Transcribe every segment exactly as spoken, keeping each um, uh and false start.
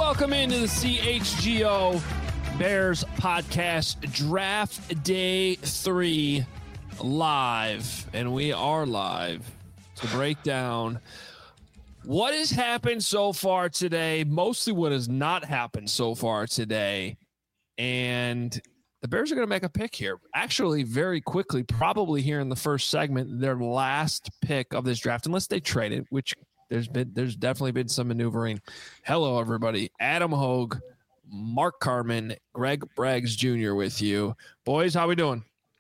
Welcome into the C H G O Bears podcast, draft day three, live. And we are live to break down what has happened so far today, mostly what has not happened so far today. And the Bears are going to make a pick here. Actually, very quickly, probably here in the first segment, their last pick of this draft, unless they trade it, which there's been, there's definitely been some maneuvering. Hello, everybody. Adam Hogue, Mark Carman, Greg Braggs Junior with you. Boys, how we doing?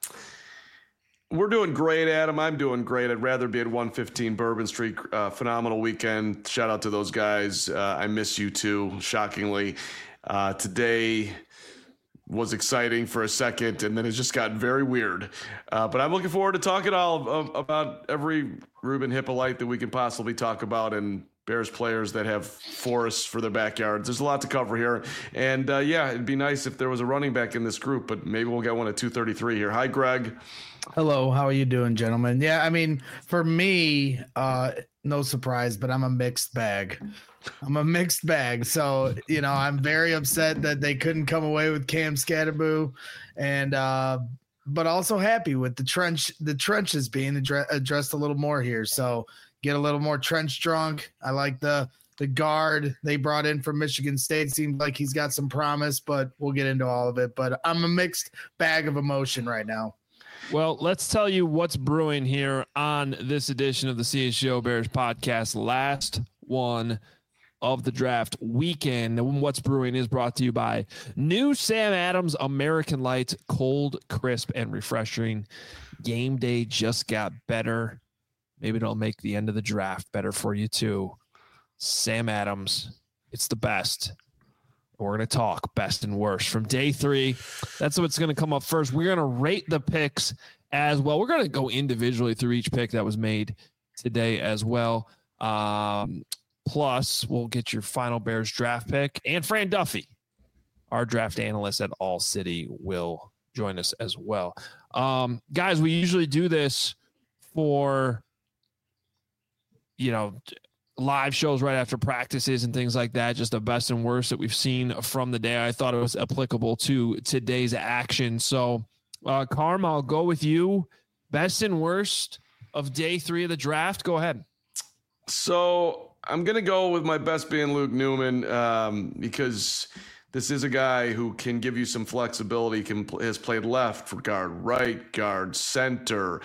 We're doing great, Adam. I'm doing great. I'd rather be at one fifteen Bourbon Street. Uh, phenomenal weekend. Shout out to those guys. Uh, I miss you too, shockingly. Uh, today was exciting for a second, and then it just got very weird. Uh, but I'm looking forward to talking all of, about every Ruben Hippolyte that we can possibly talk about, and Bears players that have forests for their backyards. There's a lot to cover here. And, uh, yeah, it'd be nice if there was a running back in this group, but maybe we'll get one at two thirty-three here. Hi, Greg. Hello. How are you doing, gentlemen? Yeah, I mean, for me, uh, no surprise, but I'm a mixed bag. I'm a mixed bag. So, you know, I'm very upset that they couldn't come away with Cam Skattebo, and uh, but also happy with the trench, the trenches being addre- addressed a little more here. So get a little more trench drunk. I like the the guard they brought in from Michigan State. Seems like he's got some promise, but we'll get into all of it. But I'm a mixed bag of emotion right now. Well, let's tell you what's brewing here on this edition of the C H G O Bears podcast. Last one of the draft weekend. And what's brewing is brought to you by new Sam Adams American Light, cold, crisp, and refreshing. Game day just got better. Maybe it'll make the end of the draft better for you too. Sam Adams, it's the best. We're going to talk best and worst from day three. That's what's going to come up first. We're going to rate the picks as well. We're going to go individually through each pick that was made today as well. Um, plus, we'll get your final Bears draft pick. And Fran Duffy, our draft analyst at All City, will join us as well. Um, guys, we usually do this for, you know, live shows right after practices and things like that, just the best and worst that we've seen from the day. I thought it was applicable to today's action. So, uh, Carm, I'll go with you. Best and worst of day three of the draft. Go ahead. So I'm going to go with my best being Luke Newman um, because this is a guy who can give you some flexibility, can has played left for guard, right guard, center.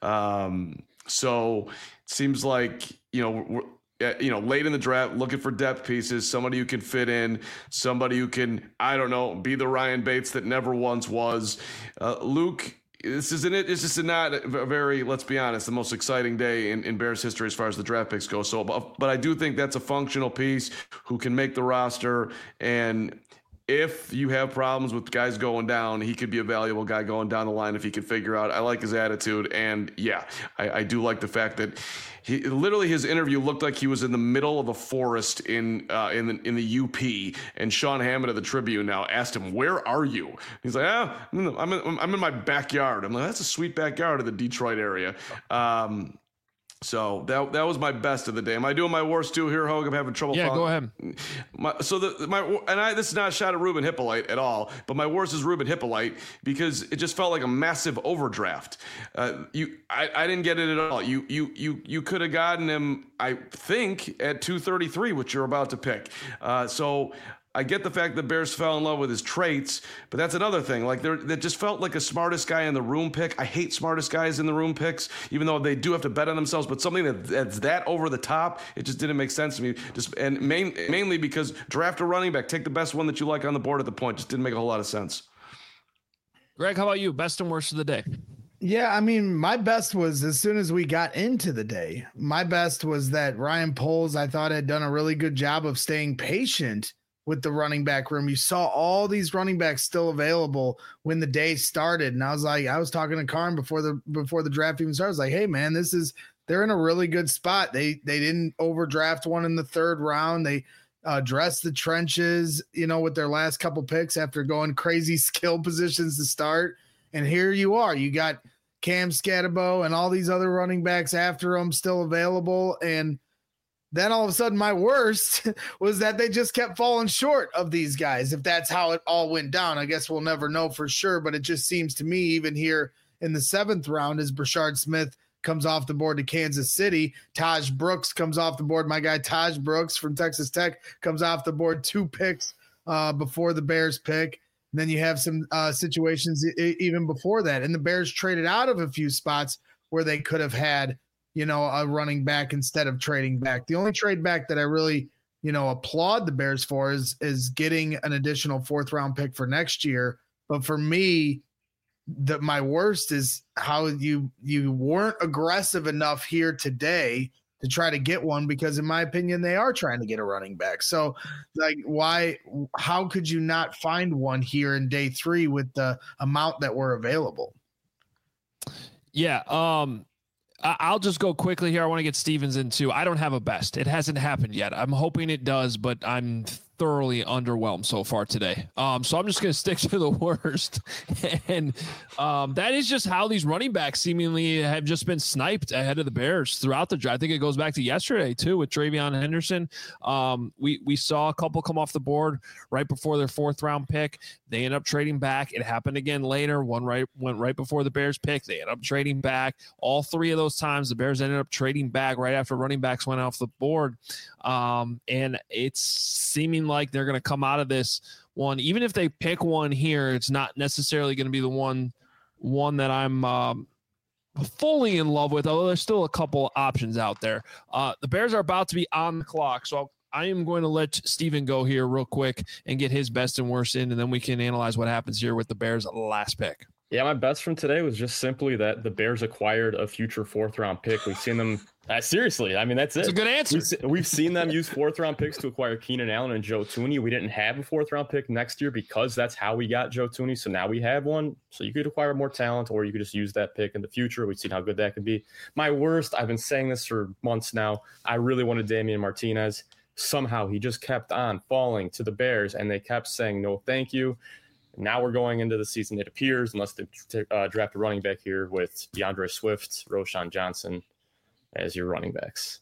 Um, so it seems like, you know, we're, you know, late in the draft, looking for depth pieces, somebody who can fit in, somebody who can, I don't know, be the Ryan Bates that never once was. Uh, Luke, this isn't it. It's just not a very, let's be honest, the most exciting day in, in Bears history as far as the draft picks go. So, but, but I do think that's a functional piece who can make the roster. And if you have problems with guys going down, he could be a valuable guy going down the line if he can figure out. I like his attitude. And yeah, I, I do like the fact that he literally his interview looked like he was in the middle of a forest in uh, in the in the U P. And Sean Hammond of the Tribune now asked him, "Where are you?" He's like, "Ah, I'm in, I'm in, I'm in my backyard." I'm like, "That's a sweet backyard in the Detroit area." Um, So that that was my best of the day. Am I doing my worst too here, Hogue? I'm having trouble. Yeah, following. Go ahead. My, so the my and I this is not a shot at Ruben Hippolyte at all, but my worst is Ruben Hippolyte because it just felt like a massive overdraft. Uh, you, I, I didn't get it at all. You you you you could have gotten him, I think, at two thirty-three, which you're about to pick. Uh, so. I get the fact that Bears fell in love with his traits, but that's another thing. Like, that just felt like a smartest guy in the room pick. I hate smartest guys in the room picks, even though they do have to bet on themselves. But something that, that's that over the top, it just didn't make sense to me. Just and main, mainly because draft a running back, take the best one that you like on the board at the point. Just didn't make a whole lot of sense. Greg, how about you? Best and worst of the day. Yeah, I mean, my best was as soon as we got into the day. My best was that Ryan Poles, I thought, had done a really good job of staying patient with the running back room. You saw all these running backs still available when the day started. And I was like, I was talking to Karn before the, before the draft even started. I was like, hey man, this is, they're in a really good spot. They, they didn't overdraft one in the third round. They uh, dressed the trenches, you know, with their last couple picks after going crazy skill positions to start. And here you are, you got Cam Skattebo and all these other running backs after them still available. And then all of a sudden my worst was that they just kept falling short of these guys. If that's how it all went down, I guess we'll never know for sure, but it just seems to me, even here in the seventh round, as Brashard Smith comes off the board to Kansas City, Taj Brooks comes off the board. My guy Taj Brooks from Texas Tech comes off the board two picks uh, before the Bears pick. And then you have some uh, situations e- even before that. And the Bears traded out of a few spots where they could have had, you know, a running back instead of trading back. The only trade back that I really, you know, applaud the Bears for is, is getting an additional fourth round pick for next year. But for me, the, my worst is how you, you weren't aggressive enough here today to try to get one, because in my opinion, they are trying to get a running back. So like, why, how could you not find one here in day three with the amount that were available? Yeah. Um, I'll just go quickly here. I want to get Stevens in too. I don't have a best. It hasn't happened yet. I'm hoping it does, but I'm thoroughly underwhelmed so far today. Um, so I'm just going to stick to the worst. And um, that is just how these running backs seemingly have just been sniped ahead of the Bears throughout the draft. I think it goes back to yesterday too with Travion Henderson. Um, we, we saw a couple come off the board right before their fourth round pick. They end up trading back. It happened again later. One right went right before the Bears pick. They end up trading back. All three of those times, the Bears ended up trading back right after running backs went off the board. Um, and it's seeming like they're going to come out of this one. Even if they pick one here, it's not necessarily going to be the one, one that I'm um, fully in love with, although there's still a couple options out there. Uh, the Bears are about to be on the clock. So I'll, I am going to let Steven go here real quick and get his best and worst in, and then we can analyze what happens here with the Bears' last pick. Yeah, my best from today was just simply that the Bears acquired a future fourth round pick. We've seen them uh, seriously. I mean, that's it. It's a good answer. We've, se- we've seen them use fourth round picks to acquire Keenan Allen and Joe Thuney. We didn't have a fourth round pick next year because that's how we got Joe Thuney. So now we have one. So you could acquire more talent, or you could just use that pick in the future. We've seen how good that could be. My worst, I've been saying this for months now. I really wanted Damian Martinez. Somehow he just kept on falling to the Bears, and they kept saying no thank you. Now we're going into the season, it appears, unless they t- uh, draft a running back here, with DeAndre Swift, Roschon Johnson as your running backs.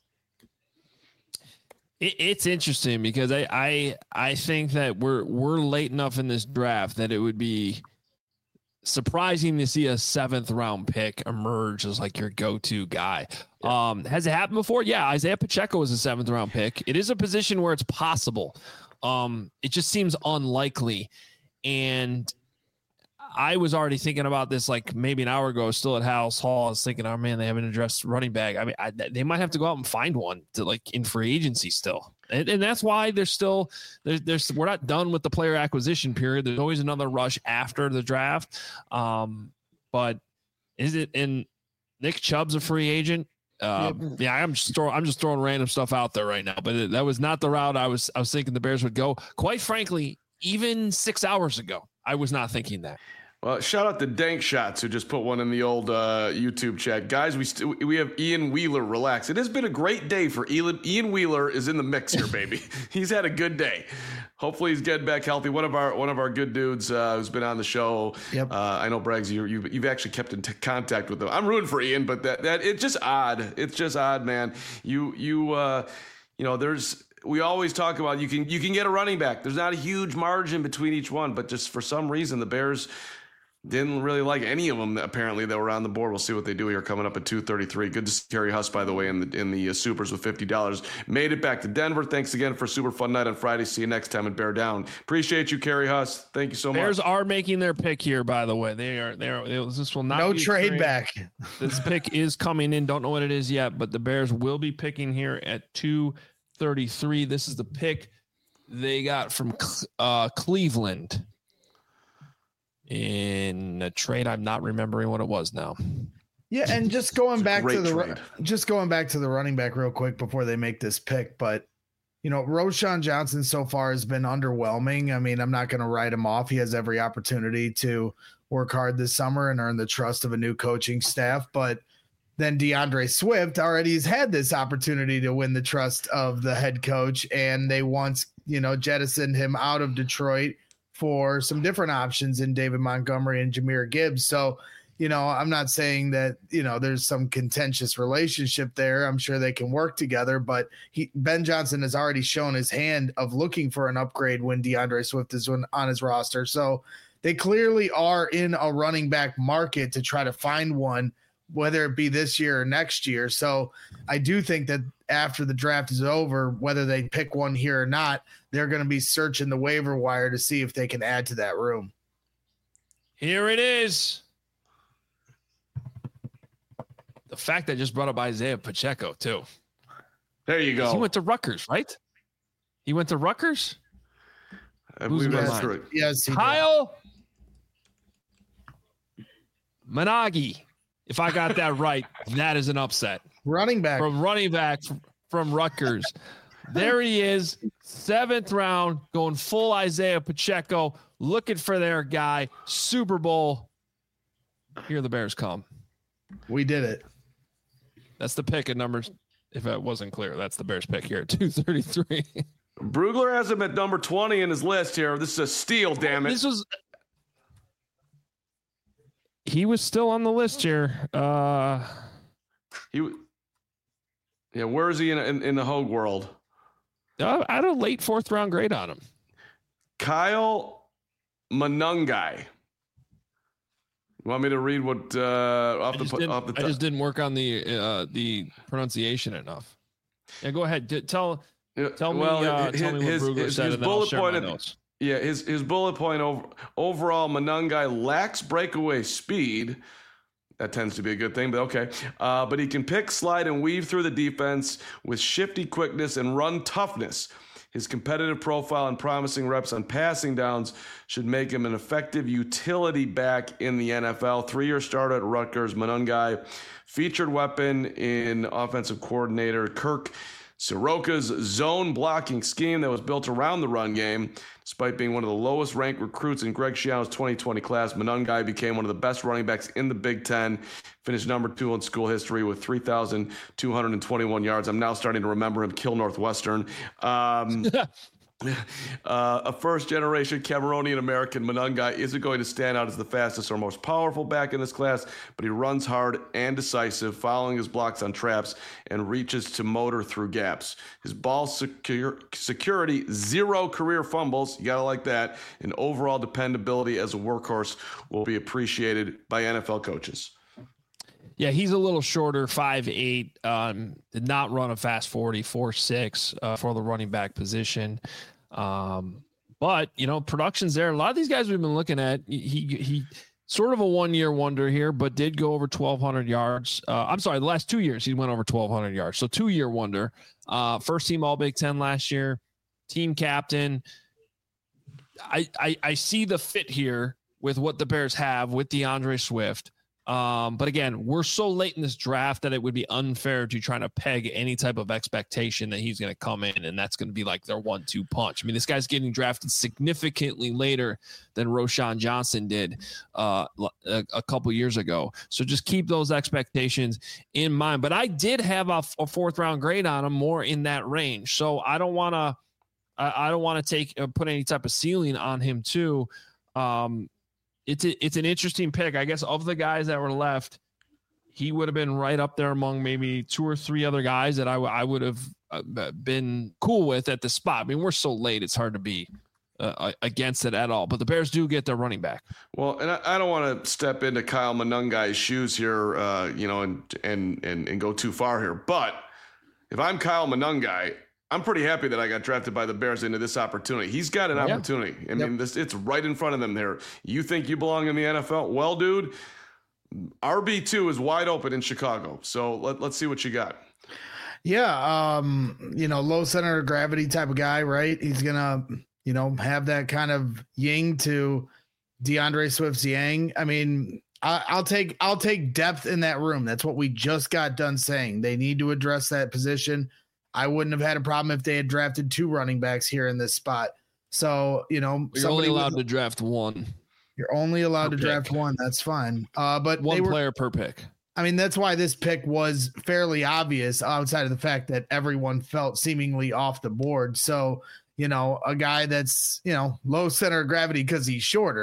It, it's interesting because I, I I think that we're we're late enough in this draft that it would be surprising to see a seventh round pick emerge as like your go-to guy. Yeah. Um, has it happened before? Yeah, Isaiah Pacheco was a seventh round pick. It is a position where it's possible. Um, it just seems unlikely. And I was already thinking about this like maybe an hour ago, still at House Hall. I was thinking, oh man, they haven't addressed running back. I mean, I, they might have to go out and find one to like in free agency still. And, and that's why there's still, there's, there's, we're not done with the player acquisition period. There's always another rush after the draft. Um, but is it in Nick Chubb's a free agent? Uh, yep. Yeah, I'm just throwing, I'm just throwing random stuff out there right now, but it, that was not the route I was, I was thinking the Bears would go. Quite frankly, even six hours ago, I was not thinking that. Well, shout out to Dank Shots who just put one in the old uh, YouTube chat. Guys, we st- we have Ian Wheeler. Relax. It has been a great day for Ian. Ian Wheeler is in the mix here, baby. He's had a good day. Hopefully he's getting back healthy. One of our one of our good dudes uh, who's been on the show. Yep. Uh, I know Braggs, you you you've actually kept in t- contact with him. I'm rooting for Ian, but that that it's just odd. It's just odd, man. You you uh, you know there's. We always talk about you can you can get a running back. There's not a huge margin between each one, but just for some reason the Bears didn't really like any of them apparently that were on the board. We'll see what they do here coming up at two thirty-three. Good to see Kerry Huss, by the way, in the in the uh, Supers with fifty dollars. Made it back to Denver. Thanks again for a super fun night on Friday. See you next time at Bear Down. Appreciate you, Kerry Huss. Thank you so Bears much. Bears are making their pick here, by the way. They are. They are. This will not no be trade back. This pick is coming in. Don't know what it is yet, but the Bears will be picking here at two thirty-three. This is the pick they got from uh, Cleveland in a trade. I'm not remembering what it was now. Yeah, and just going back to the trade. just going back to the running back real quick before they make this pick, but you know, Roschon Johnson so far has been underwhelming. I mean, I'm not going to write him off. He has every opportunity to work hard this summer and earn the trust of a new coaching staff, but then DeAndre Swift already has had this opportunity to win the trust of the head coach, and they once, you know, jettisoned him out of Detroit for some different options in David Montgomery and Jahmyr Gibbs. So, you know, I'm not saying that, you know, there's some contentious relationship there. I'm sure they can work together, but he, Ben Johnson has already shown his hand of looking for an upgrade when DeAndre Swift is on his roster. So they clearly are in a running back market to try to find one, whether it be this year or next year. So I do think that after the draft is over, whether they pick one here or not, they're going to be searching the waiver wire to see if they can add to that room. Here it is. The fact that I just brought up Isaiah Pacheco too. There you go. He went to Rutgers, right? He went to Rutgers. I believe that's right. Yes, he Kyle Managi. If I got that right, that is an upset. Running back from running back from Rutgers. There he is, seventh round, going full Isaiah Pacheco, looking for their guy. Super Bowl. Here the Bears come. We did it. That's the pick at numbers. If it wasn't clear, that's the Bears pick here at two thirty-three. Brugler has him at number twenty in his list here. This is a steal, damn it. This was. He was still on the list here. Uh, he, yeah. Where is he in in, in the Hogue world? Uh, I had a late fourth round grade on him. Kyle Manungai. You want me to read what uh, off I the off the? I just didn't work on the uh, the pronunciation enough. Yeah, go ahead. D- tell tell well, me. Uh, his, tell me what his, Brugler his, said, his and then I'll bullet share point. my At, notes. Yeah, his his bullet point over overall Manungai lacks breakaway speed. That tends to be a good thing, but okay. Uh, but he can pick, slide, and weave through the defense with shifty quickness and run toughness. His competitive profile and promising reps on passing downs should make him an effective utility back in the N F L. Three-year starter at Rutgers, Manungai, featured weapon in offensive coordinator Kirk Soroka's zone blocking scheme that was built around the run game. Despite being one of the lowest ranked recruits in Greg Schiano's twenty twenty class, Manungai became one of the best running backs in the Big Ten, finished number two in school history with three thousand two hundred twenty-one yards. I'm now starting to remember him kill Northwestern. Um, uh, a first-generation Cameroonian-American, Manungai isn't going to stand out as the fastest or most powerful back in this class, but he runs hard and decisive, following his blocks on traps, and reaches to motor through gaps. His ball secure, security, zero career fumbles, you gotta like that, and overall dependability as a workhorse will be appreciated by N F L coaches. Yeah, he's a little shorter, five eight. Um, did not run a fast forty, four six uh, for the running back position. Um, but, you know, production's there. A lot of these guys we've been looking at, he he sort of a one-year wonder here, but did go over twelve hundred yards. Uh, I'm sorry, the last two years he went over twelve hundred yards. So two-year wonder. Uh, first team All Big Ten last year, team captain. I, I I see the fit here with what the Bears have with DeAndre Swift. Um, but again, we're so late in this draft that it would be unfair to try to peg any type of expectation that he's going to come in and that's going to be like their one two punch. I mean, this guy's getting drafted significantly later than Roschon Johnson did uh, a, a couple years ago. So just keep those expectations in mind. But I did have a, a fourth round grade on him, more in that range. So I don't want to, I, I don't want to take, uh, put any type of ceiling on him too. Um, It's a, it's an interesting pick. I guess of the guys that were left, he would have been right up there among maybe two or three other guys that I, w- I would have uh, been cool with at the spot. I mean, we're so late, it's hard to be uh, against it at all. But the Bears do get their running back. Well, and I, I don't want to step into Kyle Manungai's shoes here, uh, you know, and, and and and go too far here. But if I'm Kyle Manungai, I'm pretty happy that I got drafted by the Bears into this opportunity. He's got an yeah. opportunity. I mean, Yep. this it's right in front of them there. You think you belong in the N F L? Well, dude, R B two is wide open in Chicago. So let, let's see what you got. Yeah, um, you know, low center of gravity type of guy, right? He's gonna, you know, have that kind of yin to DeAndre Swift's yang. I mean, I, I'll take I'll take depth in that room. That's what we just got done saying. They need to address that position. I wouldn't have had a problem if they had drafted two running backs here in this spot. So, you know, You're only allowed was, to draft one. You're only allowed per to draft pick. one. That's fine. Uh, but One they were, player per pick. I mean, that's why this pick was fairly obvious outside of the fact that everyone felt seemingly off the board. So, you know, a guy that's, you know, low center of gravity because he's shorter,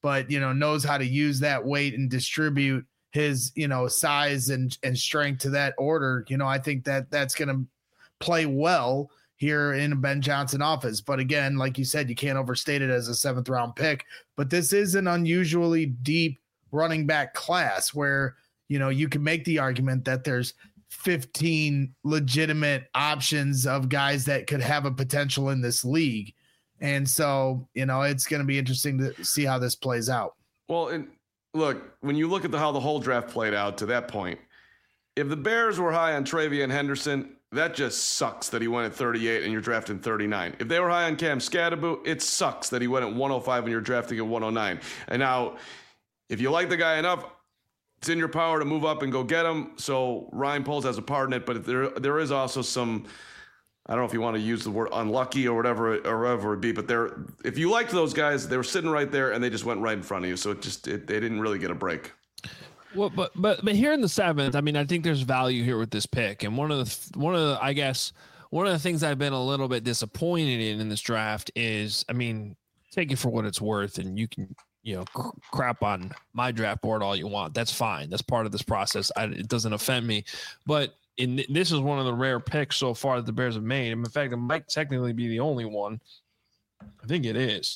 but, you know, knows how to use that weight and distribute his, you know, size and, and strength to that order. You know, I think that that's going to play well here in Ben Johnson office. But again, like you said, you can't overstate it as a seventh round pick, but this is an unusually deep running back class where, you know, you can make the argument that there's fifteen legitimate options of guys that could have a potential in this league. And so, you know, it's going to be interesting to see how this plays out. Well, and look, when you look at the, how the whole draft played out to that point, if the Bears were high on TreVeyon Henderson, that just sucks that he went at thirty-eight and you're drafting thirty-nine. If they were high on Cam Scatterbo, it sucks that he went at one oh five and you're drafting at one oh nine. And now, if you like the guy enough, it's in your power to move up and go get him. So Ryan Poles has a part in it, but there there is also some, I don't know if you want to use the word unlucky or whatever or whatever it be, but there, if you liked those guys, they were sitting right there and they just went right in front of you. So it just it, they didn't really get a break. Well, but but but here in the seventh, I mean, I think there's value here with this pick, and one of the one of the I guess one of the things I've been a little bit disappointed in in this draft is, I mean, take it for what it's worth, and you can you know cr- crap on my draft board all you want. That's fine. That's part of this process. I, it doesn't offend me, but in this is one of the rare picks so far that the Bears have made. And in fact, it might technically be the only one. I think it is.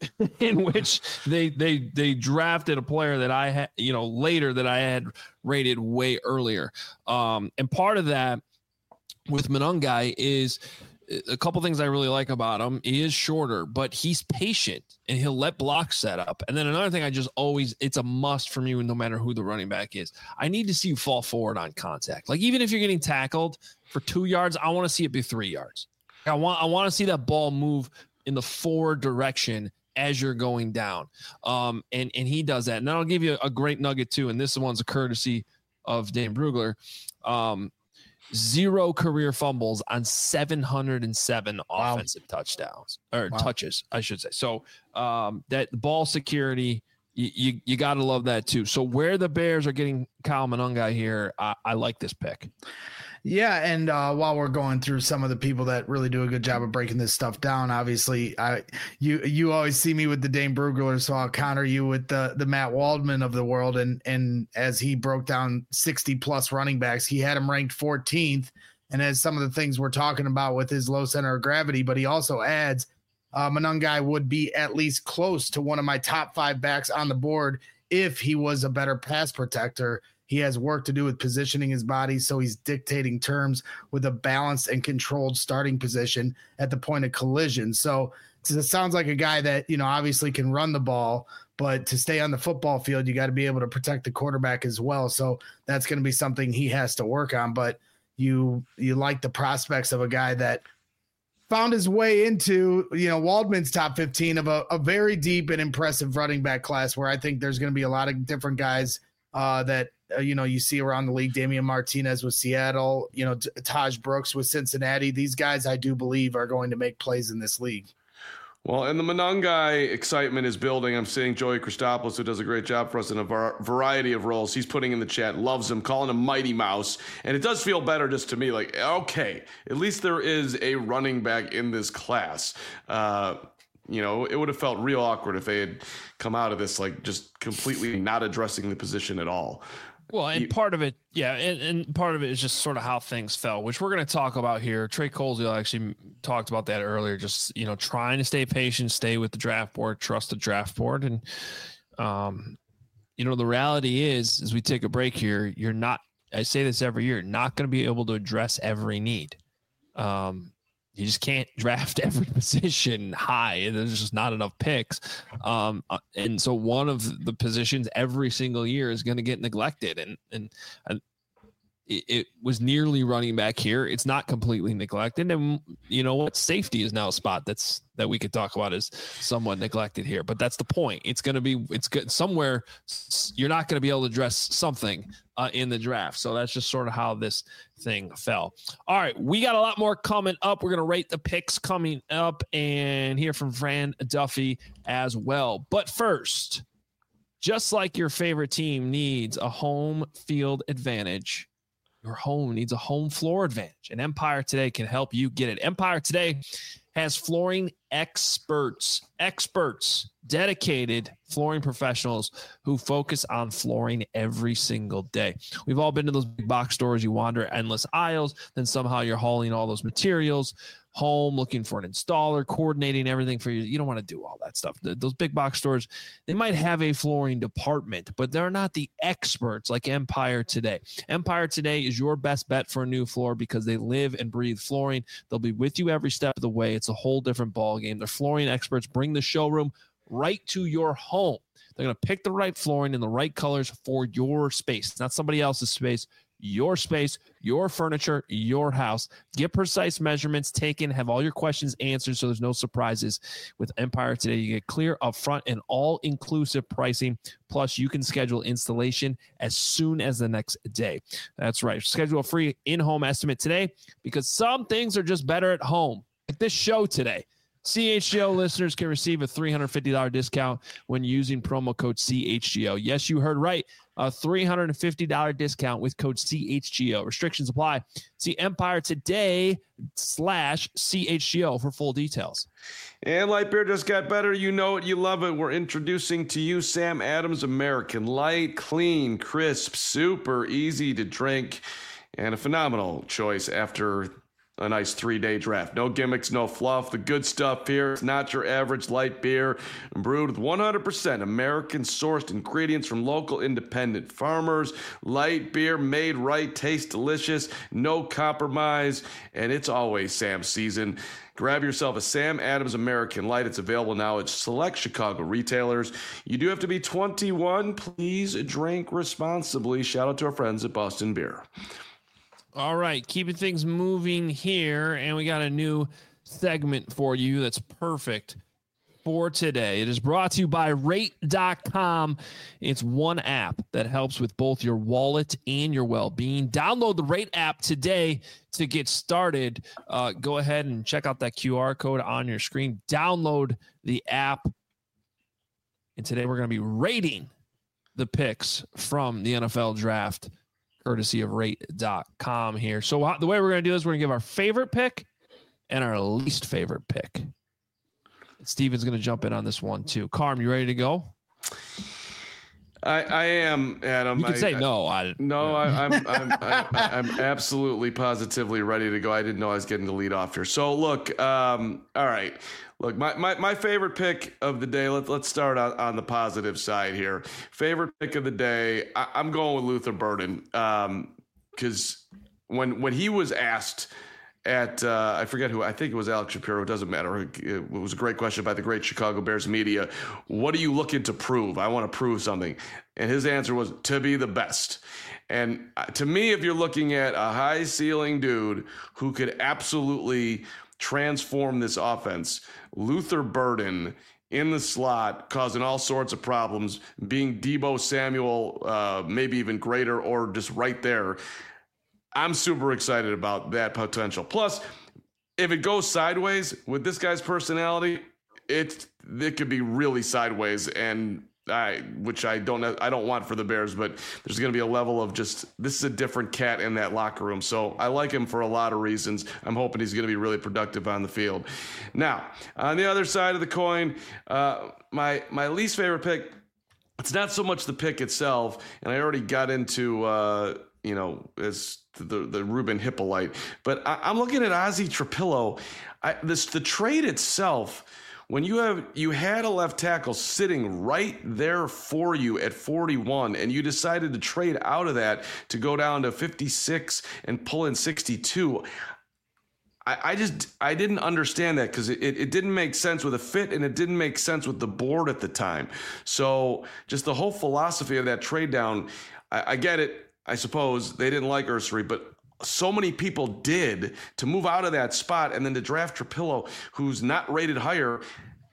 in which they they they drafted a player that I had, you know, later that I had rated way earlier. Um, and part of that with Monangai is a couple things I really like about him. He is shorter, but he's patient and he'll let blocks set up. And then another thing I just always, it's a must for me no matter who the running back is. I need to see you fall forward on contact. Like even if you're getting tackled for two yards, I want to see it be three yards. I want I want to see that ball move in the forward direction as you're going down. Um, and, and he does that. And then I'll give you a, a great nugget too. And this one's a courtesy of Dane Brugler. Um, zero career fumbles on seven hundred seven wow. offensive touchdowns or wow. touches, I should say. So um, that ball security, you, you, you got to love that too. So where the Bears are getting Kyle Monangai here, I, I like this pick. Yeah, and uh, while we're going through some of the people that really do a good job of breaking this stuff down, obviously, I you you always see me with the Dane Brugler, so I'll counter you with the the Matt Waldman of the world. And and as he broke down sixty plus running backs, he had him ranked fourteenth. And as some of the things we're talking about with his low center of gravity, but he also adds uh, Monangai would be at least close to one of my top five backs on the board if he was a better pass protector. He has work to do with positioning his body, so he's dictating terms with a balanced and controlled starting position at the point of collision. So it sounds like a guy that, you know, obviously can run the ball, but to stay on the football field, you got to be able to protect the quarterback as well. So that's going to be something he has to work on. But you you like the prospects of a guy that found his way into, you know, Waldman's top fifteen of a, a very deep and impressive running back class where I think there's going to be a lot of different guys uh, that, Uh, you know, you see around the league. Damian Martinez with Seattle, you know, T- Taj Brooks with Cincinnati. These guys, I do believe, are going to make plays in this league. Well, and the Monangai excitement is building. I'm seeing Joey Christopoulos, who does a great job for us in a var- variety of roles. He's putting in the chat, loves him, calling him Mighty Mouse. And it does feel better just to me, like, okay, at least there is a running back in this class. Uh, You know, it would have felt real awkward if they had come out of this like just completely not addressing the position at all. Well, and you, part of it, yeah, and, and part of it is just sort of how things fell, which we're going to talk about here. Trey Colesville actually talked about that earlier, just, you know, trying to stay patient, stay with the draft board, trust the draft board. And, um, you know, the reality is, as we take a break here, you're not, I say this every year, not going to be able to address every need. Um, You just can't draft every position high. There's just not enough picks. Um, and so one of the positions every single year is going to get neglected. And, and, and it, it was nearly running back here. It's not completely neglected. And you know what? Safety is now a spot that's, that we could talk about as somewhat neglected here, but that's the point. It's going to be, it's good somewhere. You're not going to be able to address something uh, in the draft. So that's just sort of how this thing fell. All right. We got a lot more coming up. We're going to rate the picks coming up and hear from Fran Duffy as well. But first, just like your favorite team needs a home field advantage, Your home needs a home floor advantage, and Empire Today can help you get it. Empire Today has flooring experts, experts, dedicated flooring professionals who focus on flooring every single day. We've all been to those big box stores. You wander endless aisles, then somehow you're hauling all those materials home, looking for an installer, coordinating everything for you. You don't want to do all that stuff. The, those big box stores, they might have a flooring department, but they're not the experts like Empire Today. Empire Today is your best bet for a new floor because they live and breathe flooring. They'll be with you every step of the way. It's a whole different ballgame. Their flooring experts bring the showroom right to your home. They're going to pick the right flooring in the right colors for your space, not somebody else's space. Your space, your furniture, your house. Get precise measurements taken, have all your questions answered so there's no surprises. With Empire Today, you get clear upfront and all-inclusive pricing. Plus, you can schedule installation as soon as the next day. That's right. Schedule a free in-home estimate today because some things are just better at home. Like this show today. C H G O listeners can receive a three hundred fifty dollars discount when using promo code C H G O. Yes, you heard right. A three hundred fifty dollars discount with code C H G O. Restrictions apply. See Empire Today slash C H G O for full details. And light beer just got better. You know it. You love it. We're introducing to you Sam Adams American Light. Clean, crisp, super easy to drink, and a phenomenal choice after a nice three-day draft. No gimmicks, no fluff. The good stuff here. It's not your average light beer. Brewed with one hundred percent American-sourced ingredients from local independent farmers. Light beer made right, tastes delicious, no compromise, and it's always Sam season. Grab yourself a Sam Adams American Light. It's available now at select Chicago retailers. You do have to be twenty-one. Please drink responsibly. Shout out to our friends at Boston Beer. All right, keeping things moving here, and we got a new segment for you that's perfect for today. It is brought to you by rate dot com. It's one app that helps with both your wallet and your well-being. Download the Rate app today to get started. Uh, go ahead and check out that Q R code on your screen. Download the app. And today we're going to be rating the picks from the N F L draft, courtesy of rate dot com here. So the way we're going to do this, we're going to give our favorite pick and our least favorite pick. Steven's going to jump in on this one too. Carm, you ready to go? I, I am, Adam. You can I, say I, no. I, no, I, I'm, I'm, I'm, I'm absolutely positively ready to go. I didn't know I was getting the lead off here. So look, um, all right. Look, my, my, my favorite pick of the day, let, let's start on, on the positive side here. Favorite pick of the day, I, I'm going with Luther Burden. Um, because when when he was asked at, uh, I forget who, I think it was Alex Shapiro, it doesn't matter. It was a great question by the great Chicago Bears media. What are you looking to prove? I want to prove something. And his answer was to be the best. And to me, if you're looking at a high ceiling dude who could absolutely transform this offense, Luther Burden in the slot, causing all sorts of problems, being Deebo Samuel, uh, maybe even greater or just right there. I'm super excited about that potential. Plus, if it goes sideways with this guy's personality, it it could be really sideways, and I which I don't I don't want for the Bears, but there's going to be a level of just this is a different cat in that locker room. So I like him for a lot of reasons. I'm hoping he's going to be really productive on the field. Now, on the other side of the coin, uh, my my least favorite pick, it's not so much the pick itself, and I already got into uh, you know as the the Ruben Hippolyte, but I, I'm looking at Ozzie Trapillo. I, this the trade itself. When you have you had a left tackle sitting right there for you at forty-one, and you decided to trade out of that to go down to fifty-six and pull in sixty-two, I, I just I didn't understand that because it, it didn't make sense with a fit, and it didn't make sense with the board at the time. So just the whole philosophy of that trade down, I, I get it. I suppose they didn't like Ursary, but so many people did to move out of that spot and then to draft Trapillo, who's not rated higher.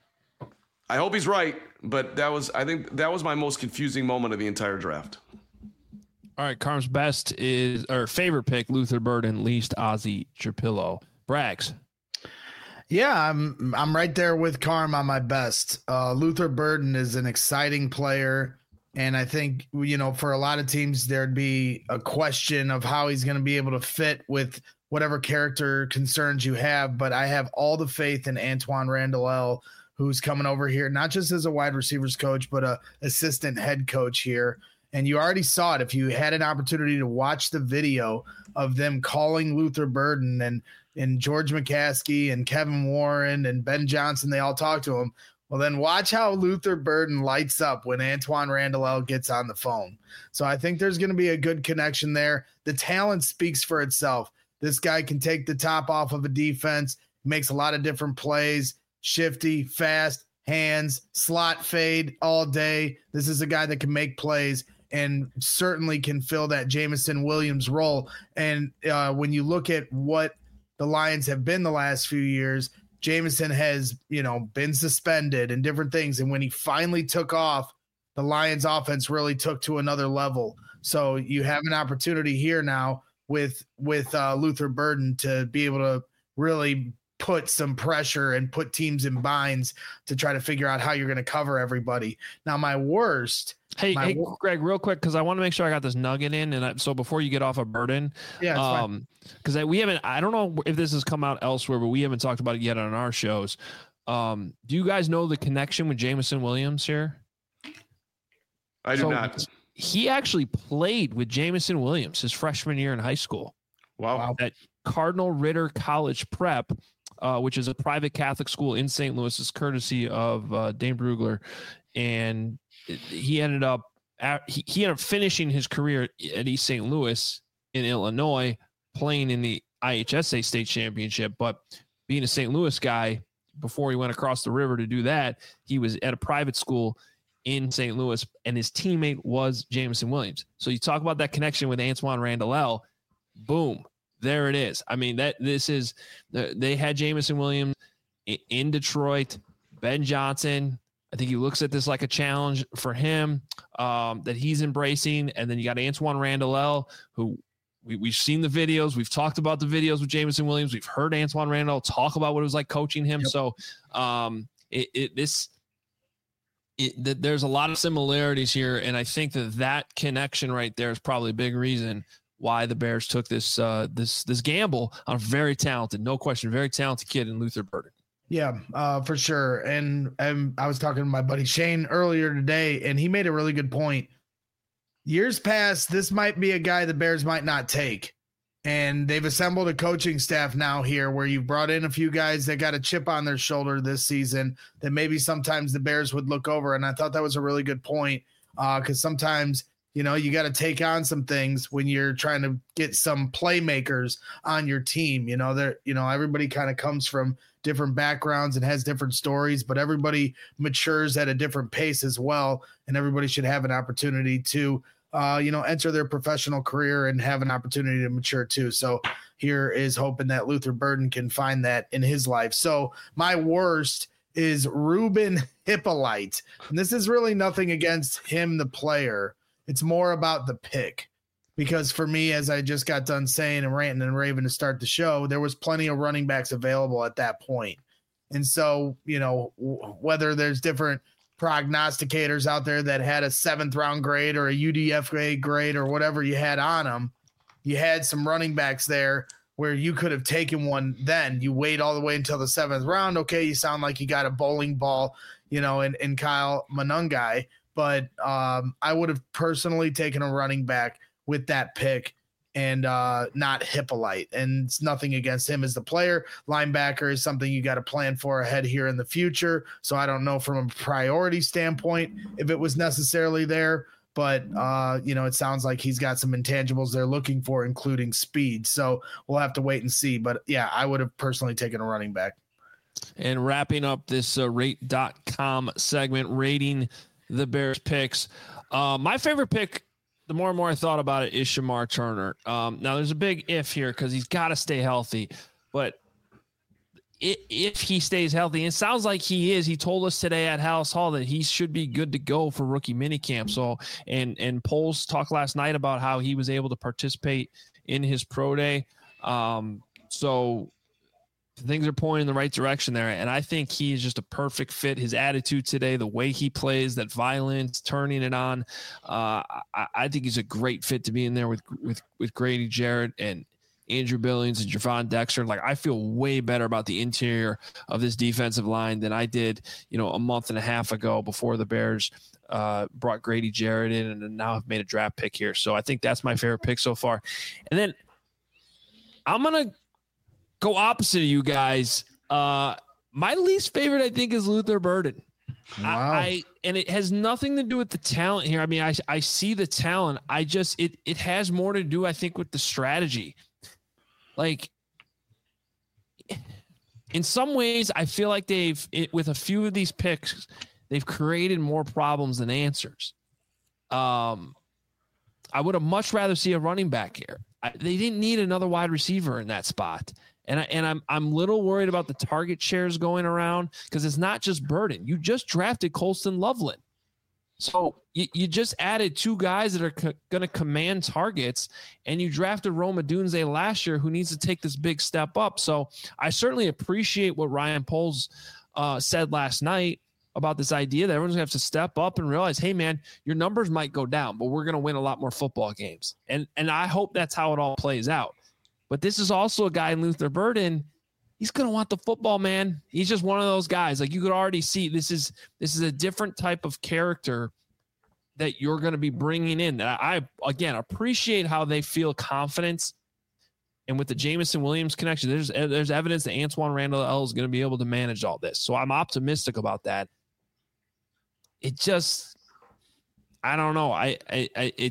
I hope he's right, but that was, I think that was my most confusing moment of the entire draft. All right. Carm's best is, or favorite pick, Luther Burden, least Ozzie Trapillo. Braggs. Yeah, I'm, I'm right there with Carm on my best. Uh, Luther Burden is an exciting player. And I think, you know, for a lot of teams, there'd be a question of how he's going to be able to fit with whatever character concerns you have. But I have all the faith in Antwaan Randle El, who's coming over here, not just as a wide receivers coach, but a assistant head coach here. And you already saw it. If you had an opportunity to watch the video of them calling Luther Burden and, and George McCaskey and Kevin Warren and Ben Johnson, they all talked to him. Well, then watch how Luther Burden lights up when Antwaan Randle El gets on the phone. So I think there's going to be a good connection there. The talent speaks for itself. This guy can take the top off of a defense, makes a lot of different plays, shifty, fast, hands, slot fade all day. This is a guy that can make plays and certainly can fill that Jameson Williams role. And uh, when you look at what the Lions have been the last few years, Jameson has, you know, been suspended and different things. And when he finally took off, the Lions offense really took to another level. So you have an opportunity here now with, with uh, Luther Burden to be able to really put some pressure and put teams in binds to try to figure out how you're going to cover everybody. Now, my worst. Hey, my hey, wor- Greg, real quick, because I want to make sure I got this nugget in. And I, so before you get off of Burden, yeah, um, because we haven't, I don't know if this has come out elsewhere, but we haven't talked about it yet on our shows. Um, do you guys know the connection with Jameson Williams here? I do so not. He actually played with Jameson Williams his freshman year in high school. Wow. At Cardinal Ritter College Prep, uh, which is a private Catholic school in Saint Louis, is courtesy of uh, Dane Brugler. And he ended up he, he ended up finishing his career at East Saint Louis in Illinois, playing in the I H S A state championship. But being a Saint Louis guy, before he went across the river to do that, he was at a private school in Saint Louis, and his teammate was Jameson Williams. So you talk about that connection with Antwaan Randle El, boom, there it is. I mean, that this is they had Jameson Williams in Detroit, Ben Johnson. I think he looks at this like a challenge for him um, that he's embracing. And then you got Antwaan Randle El, who we, we've seen the videos. We've talked about the videos with Jameson Williams. We've heard Antwaan Randle El talk about what it was like coaching him. Yep. So um, it, it this it, th- there's a lot of similarities here. And I think that that connection right there is probably a big reason why the Bears took this uh, this this gamble on a very talented, no question, very talented kid in Luther Burden. Yeah, uh, for sure. And, and I was talking to my buddy Shane earlier today, and he made a really good point. Years past, this might be a guy the Bears might not take. And they've assembled a coaching staff now here where you've brought in a few guys that got a chip on their shoulder this season that maybe sometimes the Bears would look over. And I thought that was a really good point because uh, sometimes, you know, you got to take on some things when you're trying to get some playmakers on your team. You know, they're, you know, everybody kind of comes from different backgrounds and has different stories, but everybody matures at a different pace as well. And everybody should have an opportunity to, uh, you know, enter their professional career and have an opportunity to mature too. So here is hoping that Luther Burden can find that in his life. So my worst is Ruben Hippolyte. And this is really nothing against him, the player. It's more about the pick. Because for me, as I just got done saying and ranting and raving to start the show, there was plenty of running backs available at that point. And so, you know, w- whether there's different prognosticators out there that had a seventh round grade or a U D F A grade or whatever you had on them, you had some running backs there where you could have taken one then. You wait all the way until the seventh round. Okay, you sound like you got a bowling ball, you know, in, in Kyle Monangai. But um, I would have personally taken a running back with that pick and uh, not Hippolyte. And it's nothing against him as the player. Linebacker is something you got to plan for ahead here in the future. So I don't know from a priority standpoint if it was necessarily there, but uh, you know, it sounds like he's got some intangibles they're looking for, including speed. So we'll have to wait and see. But yeah, I would have personally taken a running back. And wrapping up this uh, rate dot com segment, rating the Bears picks. Uh, my favorite pick, the more and more I thought about it, is Shamar Turner. Um, now, there's a big if here because he's got to stay healthy. But if, if he stays healthy, and it sounds like he is, he told us today at House Hall that he should be good to go for rookie minicamp. So, and and Poles talked last night about how he was able to participate in his pro day. Um, so things are pointing in the right direction there. And I think he is just a perfect fit. His attitude today, the way he plays, that violence, turning it on. Uh, I, I think he's a great fit to be in there with, with, with Grady Jarrett and Andrew Billings and Javon Dexter. Like, I feel way better about the interior of this defensive line than I did, you know, a month and a half ago before the Bears uh, brought Grady Jarrett in and now have made a draft pick here. So I think that's my favorite pick so far. And then I'm going to go opposite of you guys. Uh, my least favorite, I think, is Luther Burden. Wow. I, I and it has nothing to do with the talent here. I mean, I I see the talent. I just it it has more to do, I think, with the strategy. Like, in some ways, I feel like they've it, with a few of these picks, they've created more problems than answers. Um, I would have much rather see a running back here. I, they didn't need another wide receiver in that spot. And I, and I'm I'm little worried about the target shares going around because it's not just Burden. You just drafted Colston Loveland, so you, you just added two guys that are co- going to command targets, and you drafted Rome Odunze last year, who needs to take this big step up. So I certainly appreciate what Ryan Poles uh, said last night about this idea that everyone's going to have to step up and realize, hey man, your numbers might go down, but we're going to win a lot more football games, and and I hope that's how it all plays out. But this is also a guy in Luther Burden. He's going to want the football, man. He's just one of those guys. Like, you could already see this is this is a different type of character that you're going to be bringing in. I, I again, appreciate how they feel confidence. And with the Jameson Williams connection, there's there's evidence that Antoine Randall L is going to be able to manage all this. So I'm optimistic about that. It just, I don't know. I, I, I it,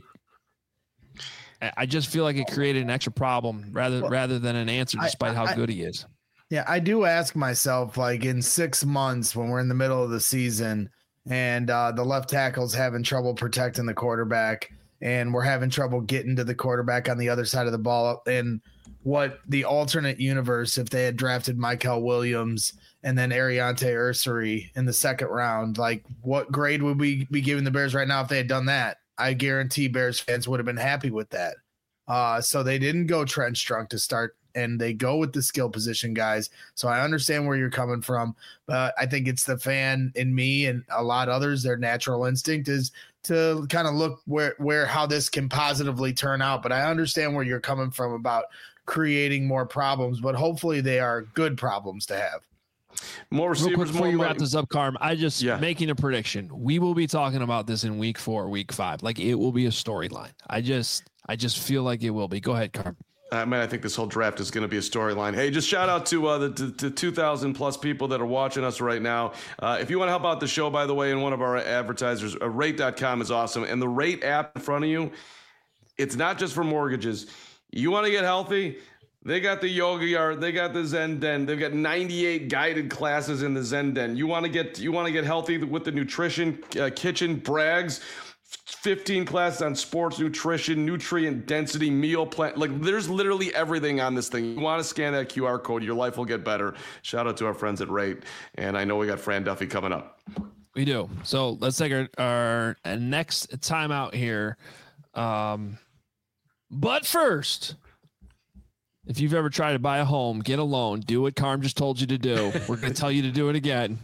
I just feel like it created an extra problem rather well, rather than an answer, despite I, I, how good he is. Yeah, I do ask myself, like, in six months when we're in the middle of the season and uh, the left tackle's having trouble protecting the quarterback and we're having trouble getting to the quarterback on the other side of the ball, and what the alternate universe, if they had drafted Michael Williams and then Ariante Ursary in the second round, like, what grade would we be giving the Bears right now if they had done that? I guarantee Bears fans would have been happy with that. Uh, so they didn't go Trent Strunk to start, and they go with the skill position guys. So I understand where you're coming from, but I think it's the fan in me and a lot of others, their natural instinct is to kind of look where, where, how this can positively turn out. But I understand where you're coming from about creating more problems, but hopefully they are good problems to have. More receivers, Real quick, before more you money. wrap this up, Carm, I just yeah. making a prediction. We will be talking about this in week four, week five. Like, it will be a storyline. I just, I just feel like it will be. Go ahead, Carm. I mean, I think this whole draft is going to be a storyline. Hey, just shout out to uh, the to, to two thousand plus people that are watching us right now. Uh, if you want to help out the show, by the way, and one of our advertisers, uh, rate dot com is awesome. And the Rate app in front of you, it's not just for mortgages. You want to get healthy? They got the yoga yard. They got the Zen Den. They've got ninety-eight guided classes in the Zen Den. You want to get you want to get healthy with the nutrition uh, kitchen brags. fifteen classes on sports nutrition, nutrient density, meal plan. Like, there's literally everything on this thing. You want to scan that Q R code, your life will get better. Shout out to our friends at Rate. And I know we got Fran Duffy coming up. We do. So let's take our, our, our next timeout here. Um, but first, if you've ever tried to buy a home, get a loan, do what Carm just told you to do. We're going to tell you to do it again.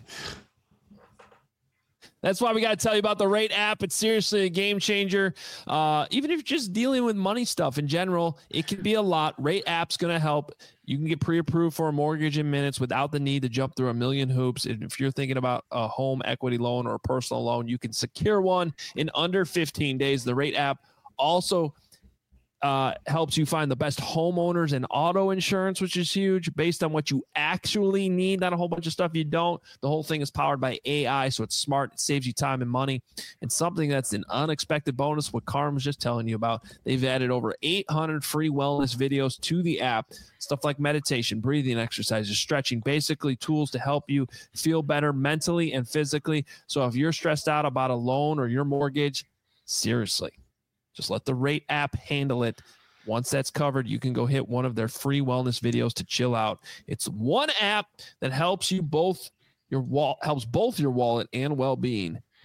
That's why we got to tell you about the Rate app. It's seriously a game changer. Uh, even if you're just dealing with money stuff in general, it can be a lot. Rate app's going to help. You can get pre-approved for a mortgage in minutes without the need to jump through a million hoops. And if you're thinking about a home equity loan or a personal loan, you can secure one in under fifteen days. The Rate app also Uh, helps you find the best homeowners and auto insurance, which is huge, based on what you actually need, not a whole bunch of stuff you don't. The whole thing is powered by A I, so it's smart. It saves you time and money. And something that's an unexpected bonus, what Carm was just telling you about, they've added over eight hundred free wellness videos to the app, stuff like meditation, breathing exercises, stretching, basically tools to help you feel better mentally and physically. So if you're stressed out about a loan or your mortgage, seriously, just let the Rate app handle it. Once that's covered, you can go hit one of their free wellness videos to chill out. It's one app that helps you both your wall helps both your wallet and well-being.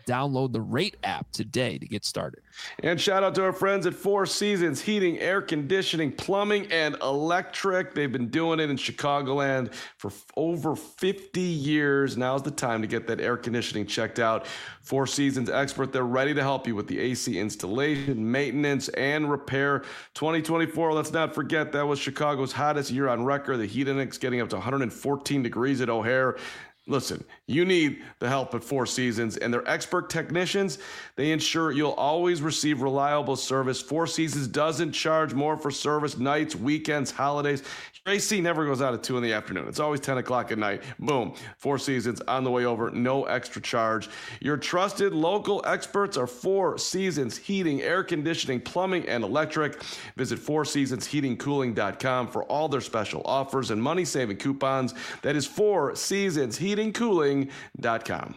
Download the Rate app today to get started. And shout out to our friends at Four Seasons Heating, Air Conditioning, Plumbing, and Electric. They've been doing it in Chicagoland for f- over fifty years. Now's the time to get that air conditioning checked out. Four Seasons expert, they're ready to help you with the A C installation, maintenance, and repair. twenty twenty-four, let's not forget, that was Chicago's hottest year on record. The heat index getting up to one hundred fourteen degrees at O'Hare. Listen, you need the help at Four Seasons, and their expert technicians, they ensure you'll always receive reliable service. Four Seasons doesn't charge more for service nights, weekends, holidays. Your A C never goes out at two in the afternoon. It's always ten o'clock at night. Boom. Four Seasons on the way over. No extra charge. Your trusted local experts are Four Seasons Heating, Air Conditioning, Plumbing, and Electric. Visit four seasons heating cooling dot com for all their special offers and money-saving coupons. That is Four Seasons Heating cooling dot com.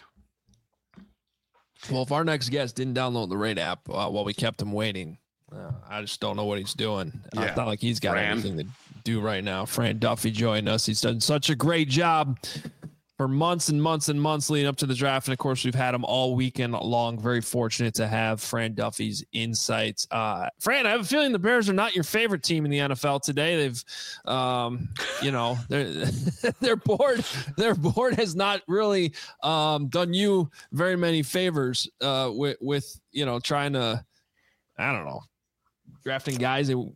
Well, if our next guest didn't download the Rate app uh, while we kept him waiting, uh, I just don't know what he's doing. Yeah. Uh, it's not like he's got Fran. anything to do right now. Fran Duffy joined us. He's done such a great job for months and months and months leading up to the draft. And of course, we've had him all weekend long. Very fortunate to have Fran Duffy's insights. Uh, Fran, I have a feeling the Bears are not your favorite team in the N F L today. They've, um, you know, their board, their board has not really um, done you very many favors uh, with, with, you know, trying to, I don't know, drafting guys that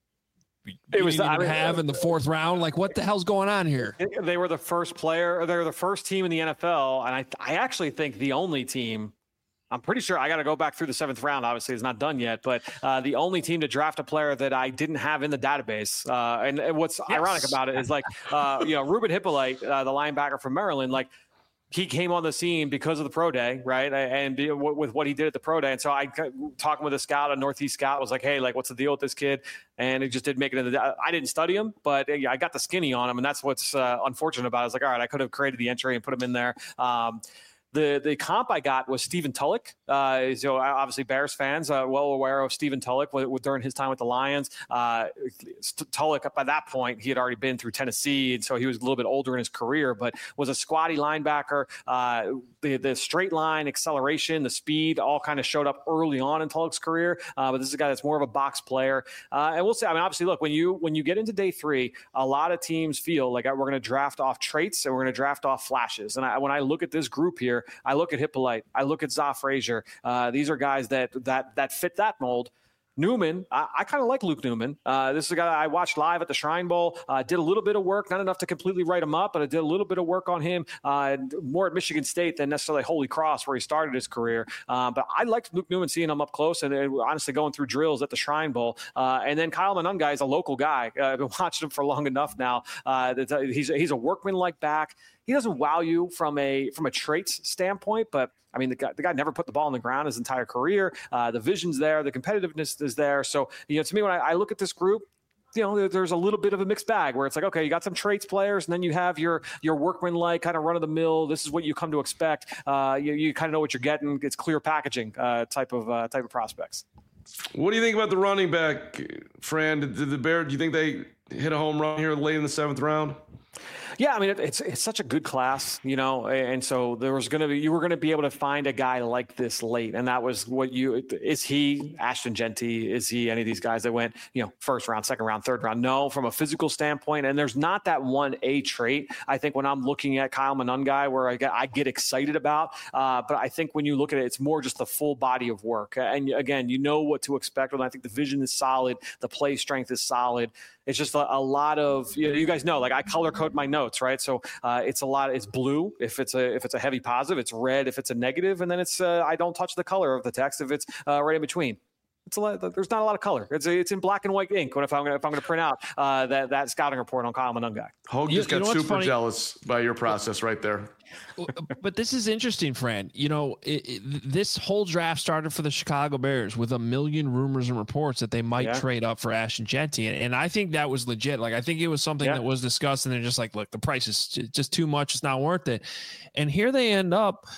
it was I mean, have in the fourth round. Like, what the hell's going on here? They were the first player. They were the first team in the N F L, and I, I actually think the only team. I'm pretty sure I got to go back through the seventh round. Obviously, it's not done yet, but uh, the only team to draft a player that I didn't have in the database. Uh, and, and what's yes. ironic about it is, like, uh, you know, Ruben Hippolyte, uh, the linebacker from Maryland, like. He came on the scene because of the pro day, right? And with what he did at the pro day. And so I talking with a scout, a Northeast scout, was like, hey, like, what's the deal with this kid? And he just didn't make it in the, I didn't study him, but I got the skinny on him. And that's what's uh, unfortunate about it. I was like, all right, I could have created the entry and put him in there. Um, The the comp I got was Stephen Tulloch. Uh, so obviously Bears fans uh, well aware of Stephen Tulloch with, with, during his time with the Lions. Uh, Tulloch, by that point, he had already been through Tennessee, and so he was a little bit older in his career, but was a squatty linebacker. Uh, the, the straight line, acceleration, the speed all kind of showed up early on in Tulloch's career, uh, but this is a guy that's more of a box player. Uh, and we'll see. I mean, obviously, look, when you when you get into day three, a lot of teams feel like we're going to draft off traits and we're going to draft off flashes. And I, when I look at this group here, I look at Hippolyte. I look at Za Frazier. Uh, these are guys that that that fit that mold. Newman, I, I kind of like Luke Newman. Uh, this is a guy I watched live at the Shrine Bowl. Uh, did a little bit of work, not enough to completely write him up, but I did a little bit of work on him, uh, more at Michigan State than necessarily Holy Cross, where he started his career. Uh, but I liked Luke Newman, seeing him up close, and, and honestly going through drills at the Shrine Bowl. Uh, and then Kyle Monangai is a local guy. Uh, I've been watching him for long enough now. Uh, that he's he's a workman-like back. He doesn't wow you from a from a traits standpoint, but I mean, the guy, the guy never put the ball on the ground his entire career. Uh, the vision's there. The competitiveness is there. So, you know, to me, when I, I look at this group, you know, there, there's a little bit of a mixed bag where it's like, okay, you got some traits players, and then you have your your workman-like kind of run-of-the-mill. This is what you come to expect. Uh, you you kind of know what you're getting. It's clear packaging uh, type of uh, type of prospects. What do you think about the running back, Fran? Did the Bears, do you think they hit a home run here late in the seventh round? Yeah, I mean, it, it's it's such a good class, you know, and so there was going to be, you were going to be able to find a guy like this late. And that was what you, is he Ashton Jeanty? Is he any of these guys that went, you know, first round, second round, third round? No, from a physical standpoint. And there's not that one A trait. I think when I'm looking at Kyle Monangai where I get, I get excited about, uh, but I think when you look at it, it's more just the full body of work. And again, you know what to expect. And I think the vision is solid. The play strength is solid. It's just a, a lot of, you know, you guys know, like I color code my notes, right? So uh, it's a lot, it's blue if it's a if it's a heavy positive, it's red if it's a negative, and then it's uh, I don't touch the color of the text if it's uh, right in between. It's a lot, there's not a lot of color. It's it's in black and white ink. When if I'm gonna if I'm gonna print out uh, that that scouting report on Kyle Monangai. Hogue just you, got you know super funny? jealous by your process right there. But this is interesting, Fran. You know, it, it, this whole draft started for the Chicago Bears with a million rumors and reports that they might yeah. trade up for Ashton Jeanty, and, and I think that was legit. Like I think it was something yeah. that was discussed, and they're just like, look, the price is just too much. It's not worth it. And here they end up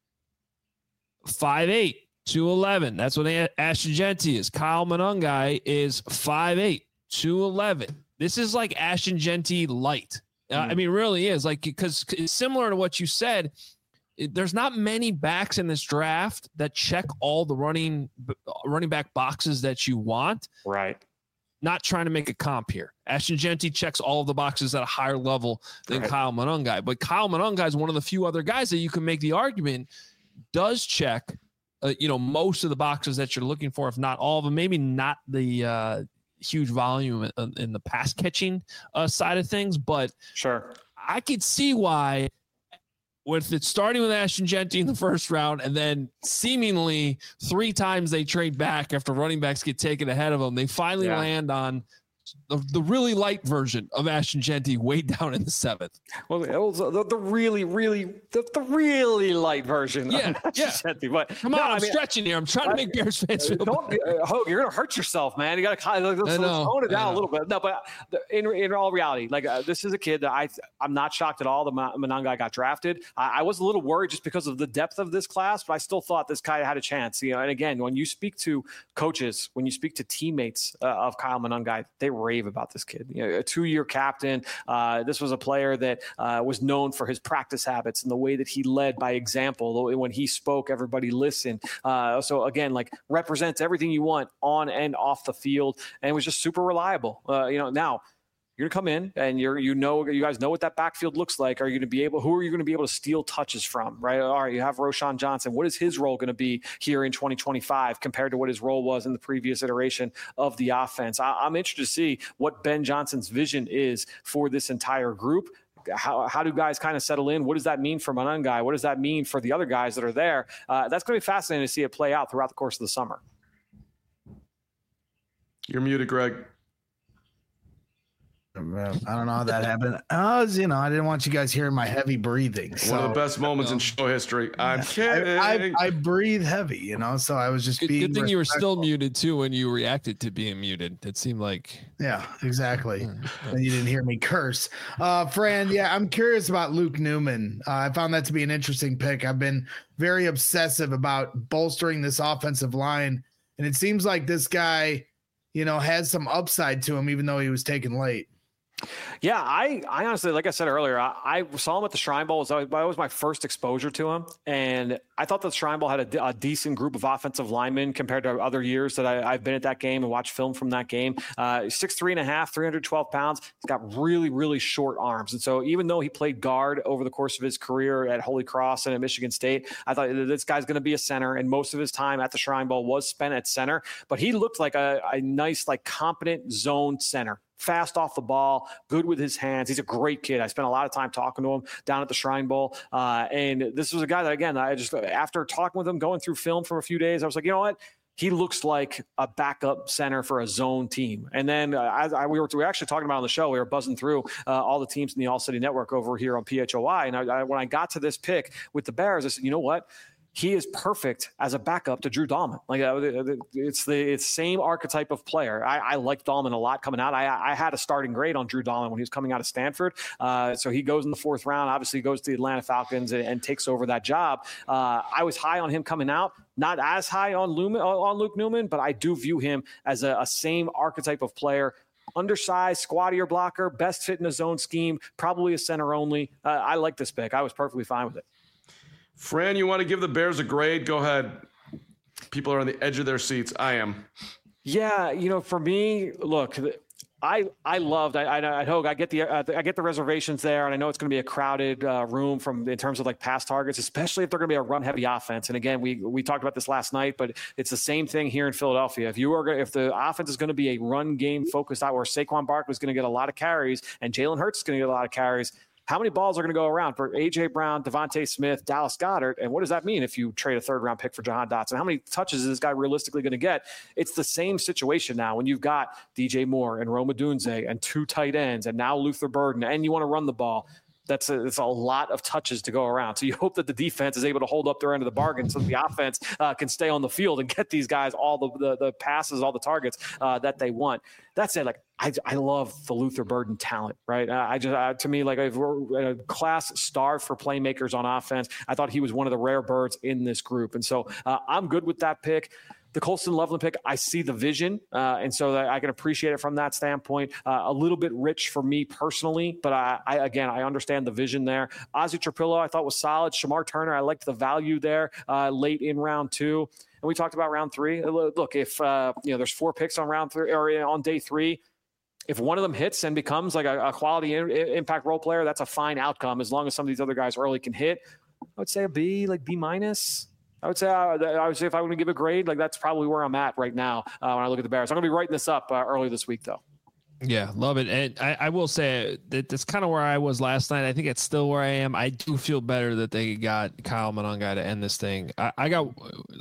five eight. two eleven. That's what Ashton Jeanty is. Kyle Monangai is five eight, two eleven. This is like Ashton Jeanty light. Uh, mm. I mean, really is like, because it's similar to what you said. it, there's not many backs in this draft that check all the running running back boxes that you want. Right. Not trying to make a comp here. Ashton Jeanty checks all of the boxes at a higher level than right. Kyle Monangai. But Kyle Monangai is one of the few other guys that you can make the argument does check, uh, you know, most of the boxes that you're looking for, if not all of them. Maybe not the uh, huge volume in, in the pass catching uh, side of things, but sure, I could see why. With it starting with Ashton Jeanty in the first round, and then seemingly three times they trade back after running backs get taken ahead of them, they finally yeah. land on the, the really light version of Ashton Jeanty way down in the seventh. Well, it was the, the really, really, the, the really light version. Yeah, of yeah. Jeanty. But come on, no, I'm I mean, stretching here. I'm trying I, to make Bears fans feel don't, uh, Hogue, you're gonna hurt yourself, man. You gotta kind of let's, let's tone it down a little bit. No, but in in all reality, like uh, this is a kid that I I'm not shocked at all. The Monangai got drafted. I, I was a little worried just because of the depth of this class, but I still thought this guy had a chance. You know, and again, when you speak to coaches, when you speak to teammates uh, of Kyle Monangai, they rave about this kid. You know, a two-year captain. Uh, this was a player that uh, was known for his practice habits and the way that he led by example. When he spoke, everybody listened. Uh, so again, like represents everything you want on and off the field, and was just super reliable. Uh, you know, now you're gonna come in and you're, you know, you guys know what that backfield looks like. Are you gonna be able? Who are you gonna be able to steal touches from? Right? All right, you have Roschon Johnson. What is his role gonna be here in twenty twenty-five compared to what his role was in the previous iteration of the offense? I, I'm interested to see what Ben Johnson's vision is for this entire group. How, how do guys kind of settle in? What does that mean for Monangai? What does that mean for the other guys that are there? Uh, that's going to be fascinating to see it play out throughout the course of the summer. You're muted, Greg. I don't know how that happened. I was, you know, I didn't want you guys hearing my heavy breathing. So, one of the best moments you know, in show history. I'm kidding. I, I, I breathe heavy, you know, so I was just good, being good thing respectful. you were still muted too when you reacted to being muted. It seemed like yeah, exactly. And you didn't hear me curse. Uh, Fran, yeah, I'm curious about Luke Newman. Uh, I found that to be an interesting pick. I've been very obsessive about bolstering this offensive line, and it seems like this guy, you know, has some upside to him, even though he was taken late. Yeah, I, I honestly, like I said earlier, I, I saw him at the Shrine Bowl. That was, that was my first exposure to him. And I thought the Shrine Bowl had a, a decent group of offensive linemen compared to other years that I, I've been at that game and watched film from that game. Uh, six, three and a half, three hundred twelve pounds. He's got really, really short arms. And so even though he played guard over the course of his career at Holy Cross and at Michigan State, I thought this guy's going to be a center. And most of his time at the Shrine Bowl was spent at center. But he looked like a, a nice, like competent zone center. Fast off the ball, good with his hands. He's a great kid. I spent a lot of time talking to him down at the Shrine Bowl. Uh, and this was a guy that, again, I just, after talking with him, going through film for a few days, I was like, you know what? He looks like a backup center for a zone team. And then uh, as I, we, were, we were actually talking about on the show, we were buzzing through uh, all the teams in the All City Network over here on P H O I. And I, I, when I got to this pick with the Bears, I said, you know what? He is perfect as a backup to Drew Dahlman. Like uh, it's the it's same archetype of player. I, I liked Dahlman a lot coming out. I, I had a starting grade on Drew Dahlman when he was coming out of Stanford. Uh, so he goes in the fourth round. Obviously, goes to the Atlanta Falcons and, and takes over that job. Uh, I was high on him coming out. Not as high on, Lumen, on Luke Newman, but I do view him as a, a same archetype of player. Undersized, squattier blocker, best fit in a zone scheme, probably a center only. Uh, I like this pick. I was perfectly fine with it. Fran, you want to give the Bears a grade? Go ahead. People are on the edge of their seats. I am. Yeah, you know, for me, look, I I loved. I I, I Hogue. I get the uh, I get the reservations there, and I know it's going to be a crowded uh, room from in terms of like pass targets, especially if they're going to be a run heavy offense. And again, we we talked about this last night, but it's the same thing here in Philadelphia. If you are if the offense is going to be a run game focused out, where Saquon Barkley is going to get a lot of carries and Jalen Hurts is going to get a lot of carries. How many balls are going to go around for A J Brown, Devontae Smith, Dallas Goedert? And what does that mean if you trade a third round pick for Jahan Dotson? How many touches is this guy realistically going to get? It's the same situation now when you've got D J Moore and Rome Odunze and two tight ends and now Luther Burden and you want to run the ball. That's a, it's a lot of touches to go around. So you hope that the defense is able to hold up their end of the bargain so that the offense uh, can stay on the field and get these guys all the the, the passes, all the targets uh, that they want. That said, like I, I love the Luther Burden talent, right? Uh, I just uh, to me, like if we're a class star for playmakers on offense, I thought he was one of the rare birds in this group, and so uh, I'm good with that pick. The Colston Loveland pick, I see the vision, uh, and so that I can appreciate it from that standpoint. Uh, a little bit rich for me personally, but I, I again, I understand the vision there. Ozzy Trapillo, I thought was solid. Shamar Turner, I liked the value there uh, late in round two. And we talked about round three. Look, if uh, you know, there's four picks on round three or on day three. If one of them hits and becomes like a, a quality in, impact role player, that's a fine outcome as long as some of these other guys early can hit. I would say a B, like B minus. I would say I, I would say if I were to give a grade, like that's probably where I'm at right now uh, when I look at the Bears. I'm going to be writing this up uh, early this week, though. Yeah, love it. And I, I will say that that's kind of where I was last night. I think it's still where I am. I do feel better that they got Kyle Monangai to end this thing. I, I got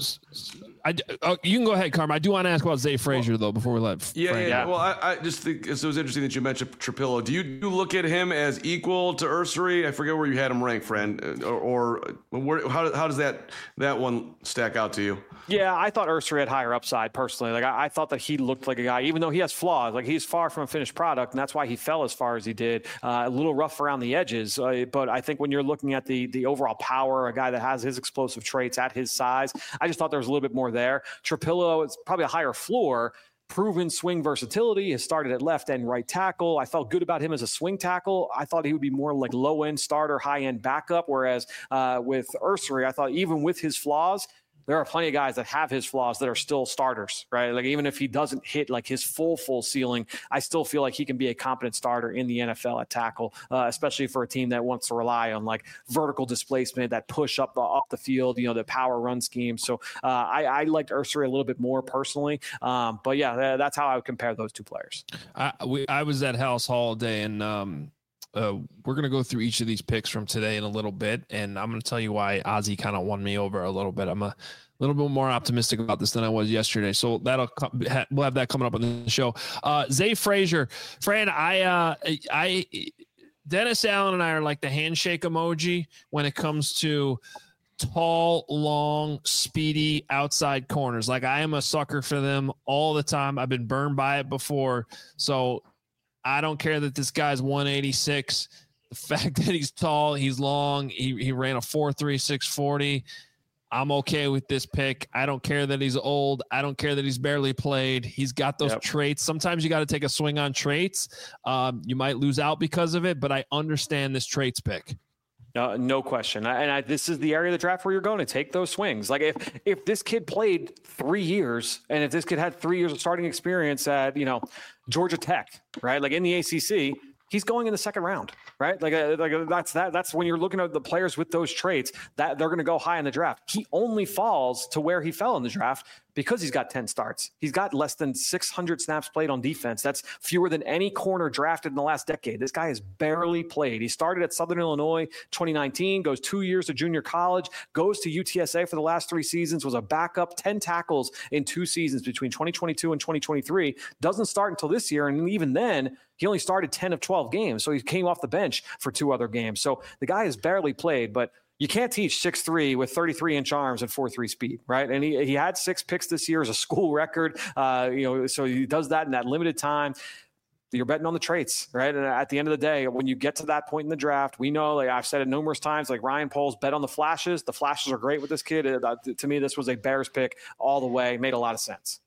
I, oh, you can go ahead, Carm. I do want to ask about Zay Frazier, though, before we let Yeah, Frank yeah. out. Well, I, I just think it was interesting that you mentioned Trapillo. Do you, do you look at him as equal to Ursary? I forget where you had him ranked, friend. Or, or where, how, how does that that one stack out to you? Yeah, I thought Ursary had higher upside personally. Like I, I thought that he looked like a guy, even though he has flaws. Like he's far from a finished product, and that's why he fell as far as he did. Uh, a little rough around the edges, uh, but I think when you're looking at the the overall power, a guy that has his explosive traits at his size, I just thought there was a little bit more there. Trapillo is probably a higher floor. Proven swing versatility, has started at left and right tackle. I felt good about him as a swing tackle. I thought he would be more like low end starter, high end backup. Whereas uh, with Ursary, I thought even with his flaws, there are plenty of guys that have his flaws that are still starters, right? Like even if he doesn't hit like his full, full ceiling, I still feel like he can be a competent starter in the N F L at tackle, uh, especially for a team that wants to rely on like vertical displacement, that push up the up the field, you know, the power run scheme. So uh, I, I liked Ursary a little bit more personally. Um, but yeah, that's how I would compare those two players. I, we, I was at House Hall day, and um, uh, we're going to go through each of these picks from today in a little bit, and I'm going to tell you why Ozzy kind of won me over a little bit. I'm a little bit more optimistic about this than I was yesterday, so that'll we'll have that coming up on the show. Uh, Zay Frazier, Fran, I, uh, I, Dennis Allen and I are like the handshake emoji when it comes to tall, long, speedy outside corners. Like I am a sucker for them all the time. I've been burned by it before, so I don't care that this guy's one eighty-six. The fact that he's tall, he's long, he he ran a four three six forty. I'm okay with this pick. I don't care that he's old. I don't care that he's barely played. He's got those yep. traits. Sometimes you got to take a swing on traits. Um, you might lose out because of it, but I understand this traits pick. Uh, no question. And I, this is the area of the draft where you're going to take those swings. Like if if this kid played three years and if this kid had three years of starting experience at, you know, Georgia Tech, right? Like in the A C C, he's going in the second round, right? Like, uh, like uh, that's that. That's when you're looking at the players with those traits that they're going to go high in the draft. He only falls to where he fell in the draft because he's got ten starts. He's got less than six hundred snaps played on defense. That's fewer than any corner drafted in the last decade. This guy has barely played. He started at Southern Illinois twenty nineteen, goes two years to junior college, goes to U T S A for the last three seasons, was a backup, ten tackles in two seasons between twenty twenty-two and twenty twenty-three. Doesn't start until this year, and even then, he only started ten of twelve games, so he came off the bench for two other games. So the guy has barely played, but you can't teach six three with thirty-three inch arms and four three speed, right? And he, he had six picks this year as a school record, uh, you know, so he does that in that limited time. You're betting on the traits, right? And at the end of the day, when you get to that point in the draft, we know, like I've said it numerous times, like Ryan Poles bet on the flashes. The flashes are great with this kid. Uh, to me, this was a Bears pick all the way. Made a lot of sense.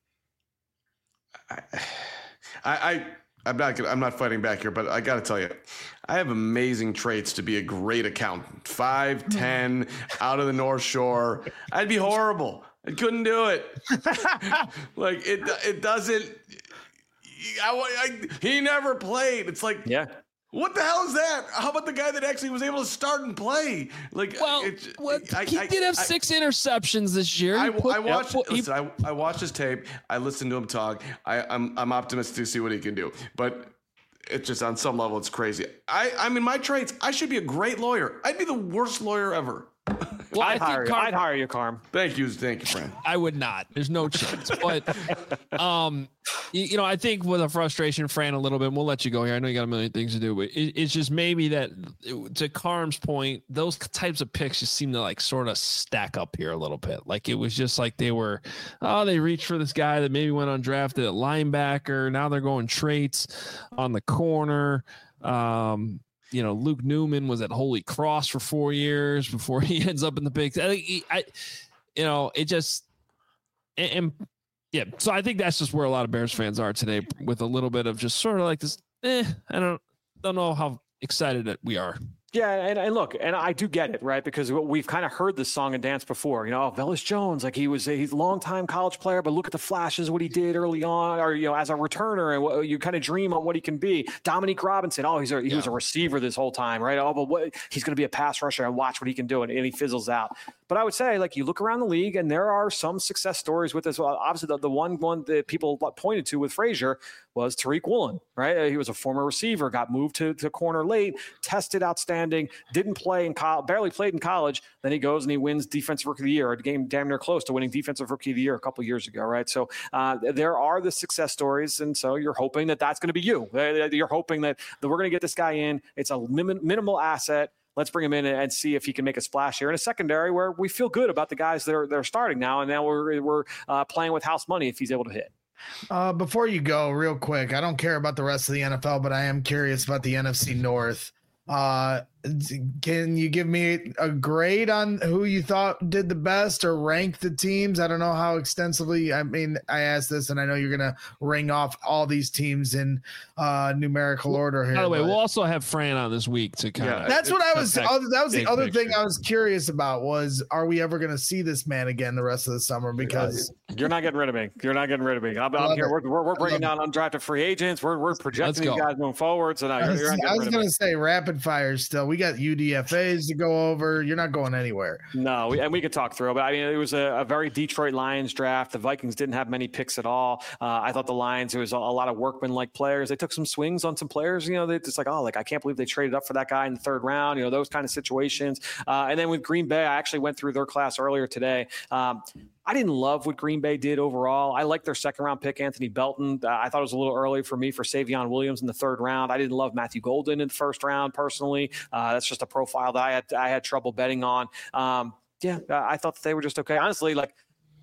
I, I, I'm not I'm not fighting back here, but I got to tell you, I have amazing traits to be a great accountant. five ten, out of the North Shore. I'd be horrible. I couldn't do it. Like it it doesn't I, I, he never played. It's like, yeah. What the hell is that? How about the guy that actually was able to start and play? Like, well, it, what, I, he I, did have I, six interceptions this year. I, put, I watched. yeah, listen, I, I watched his tape. I listened to him talk. I, I'm I'm optimistic to see what he can do. But it's just on some level, it's crazy. I I mean, my traits. I should be a great lawyer. I'd be the worst lawyer ever. Well, I'd, I hire think Carm, you. I'd hire you, Carm. Thank you, thank you, friend. I would not. There's no chance. But, um, you, you know, I think with a frustration, Fran, a little bit. And we'll let you go here. I know you got a million things to do, but it, it's just maybe that, to Carm's point, those types of picks just seem to like sort of stack up here a little bit. Like it was just like they were, oh, they reached for this guy that maybe went undrafted at linebacker. Now they're going traits on the corner. Um, You know, Luke Newman was at Holy Cross for four years before he ends up in the big. I think he, I, you know, it just, and yeah, so I think that's just where a lot of Bears fans are today, with a little bit of just sort of like this. Eh, I don't don't know how excited that we are. Yeah, and, and look, and I do get it, right? Because we've kind of heard this song and dance before. You know, oh, Velus Jones, like he was a he's a longtime college player, but look at the flashes, what he did early on, or, you know, as a returner, and what, you kind of dream on what he can be. Dominique Robinson, oh, he's a, he yeah. was a receiver this whole time, right? Oh, but what, he's going to be a pass rusher, and watch what he can do, and, and he fizzles out. But I would say, like, you look around the league, and there are some success stories with this. Well, obviously, the, the one one that people pointed to with Frazier was Tariq Woolen, right? He was a former receiver, got moved to, to corner late, tested outstanding, didn't play in college, barely played in college. Then he goes and he wins Defensive Rookie of the Year, a game damn near close to winning Defensive Rookie of the Year a couple of years ago, right? So uh, there are the success stories, and so you're hoping that that's going to be you. You're hoping that, that we're going to get this guy in. It's a min- minimal asset. Let's bring him in and see if he can make a splash here in a secondary where we feel good about the guys that are, that are starting now, and now we're we're uh, playing with house money if he's able to hit. Uh, before you go, real quick, I don't care about the rest of the N F L, but I am curious about the N F C North. Uh, can you give me a grade on who you thought did the best, or rank the teams? I don't know how extensively. I mean, I asked this, and I know you're going to ring off all these teams in uh, numerical order here. By the way, but we'll also have Fran on this week to kind of. Yeah, that's what I was. That was the other picture. thing I was curious about was, are we ever going to see this man again the rest of the summer? Because you're not getting rid of me. You're not getting rid of me. I'm, I'm here. We're, we're, we're bringing down undrafted free agents. We're we're projecting these guys moving forward. So now I was, you're not I was going to to say rapid fire still. We got U D F As to go over. You're not going anywhere. No, we, and we could talk through it, but I mean, it was a, a very Detroit Lions draft. The Vikings didn't have many picks at all. Uh, I thought the Lions, there was a, a lot of workman-like players. They took some swings on some players. You know, they just like, oh, like I can't believe they traded up for that guy in the third round. You know, those kind of situations. Uh, and then with Green Bay, I actually went through their class earlier today. Um, I didn't love what Green Bay did overall. I liked their second round pick, Anthony Belton. Uh, I thought it was a little early for me for Savion Williams in the third round. I didn't love Matthew Golden in the first round personally. Uh, that's just a profile that I had I had trouble betting on. Um, yeah, I thought that they were just okay. Honestly, like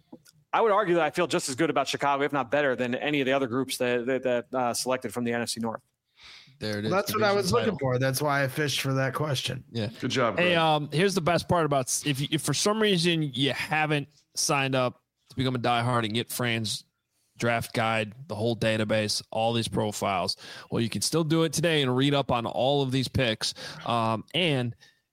I would argue that I feel just as good about Chicago, if not better, than any of the other groups that that, that uh, selected from the N F C North. There it is. Well, that's what I was title. looking for. That's why I fished for that question. Yeah, good job. Hey, Greg. um, here's the best part about if you, if for some reason you haven't signed up to become a diehard and get Fran's draft guide, the whole database, all these profiles, well, you can still do it today and read up on all of these picks. Um, and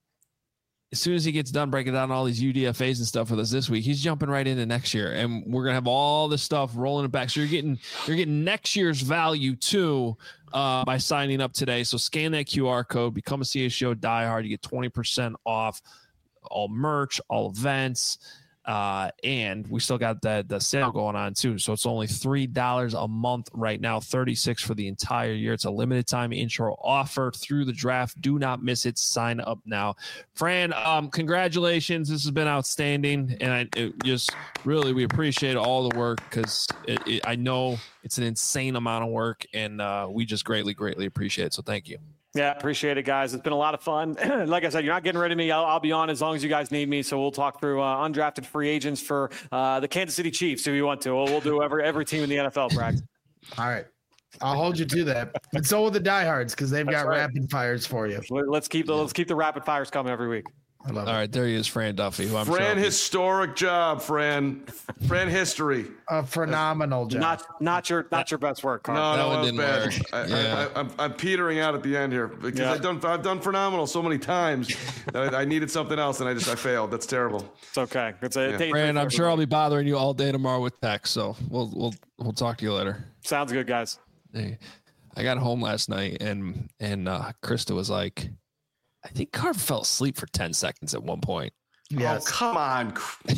as soon as he gets done breaking down all these U D F As and stuff with us this week, he's jumping right into next year, and we're gonna have all this stuff rolling it back. So you're getting you're getting next year's value too uh, by signing up today. So scan that Q R code, become a C H G O diehard. You get twenty percent off all merch, all events. Uh, and we still got that the sale going on too. So it's only three dollars a month right now, thirty-six for the entire year. It's a limited time intro offer through the draft. Do not miss it. Sign up now. Fran, um, congratulations. This has been outstanding. And I it just really, we appreciate all the work because it, it, I know it's an insane amount of work, and uh, we just greatly, greatly appreciate it. So thank you. Yeah, appreciate it, guys. It's been a lot of fun. Like I said, you're not getting rid of me. I'll, I'll be on as long as you guys need me. So we'll talk through uh, undrafted free agents for uh, the Kansas City Chiefs if you want to. We'll, we'll do every every team in the N F L, Bragg. All right. I'll hold you to that. And so will the diehards because they've That's got right. rapid fires for you. Let's keep the let's keep the rapid fires coming every week. I love All it. right, there he is, Fran Duffy. Who I'm Fran, sure historic job, Fran. Fran history. A phenomenal job. Not not your not your best work, Carl. No, That no, one that was didn't bad. work. I, Yeah. I, I, I'm, I'm petering out at the end here because Yeah. I've done I've done phenomenal so many times that I, I needed something else and I just I failed. That's terrible. It's okay. It's a Yeah. day Fran, three I'm for sure I'll everybody. be bothering you all day tomorrow with text, so we'll we'll we'll talk to you later. Sounds good, guys. Hey, I got home last night and and uh, Krista was like, I think Carver fell asleep for ten seconds at one point. Yes. Oh, come on.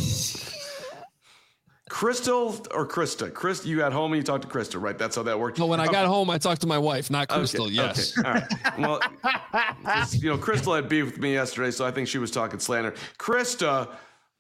Crystal or Krista? Krista, you got home and you talked to Krista, right? That's how that worked. No, when I Okay. got home, I talked to my wife, not Okay, Crystal. Yes. Okay. All right. Well, just, you know, Crystal had beef with me yesterday, so I think she was talking slander. Krista,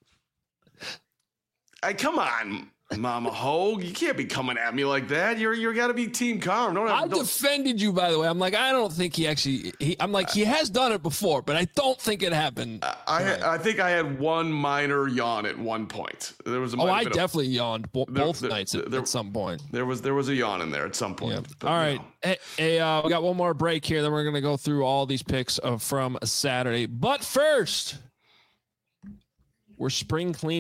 I come on, Mama Hogue, you can't be coming at me like that. You're you got to be team calm. Don't I have, don't, defended you, by the way. I'm like, I don't think he actually. He, I'm like, he has done it before, but I don't think it happened. I I think I had one minor yawn at one point. There was a oh, might I have been a- definitely yawned bo- There- both there- nights at, there- at some point. There was there was a yawn in there at some point. Yeah. But, All you right. know. Hey, hey uh, we got one more break here. Then we're going to go through all these picks of, from Saturday. But first, we're spring cleaning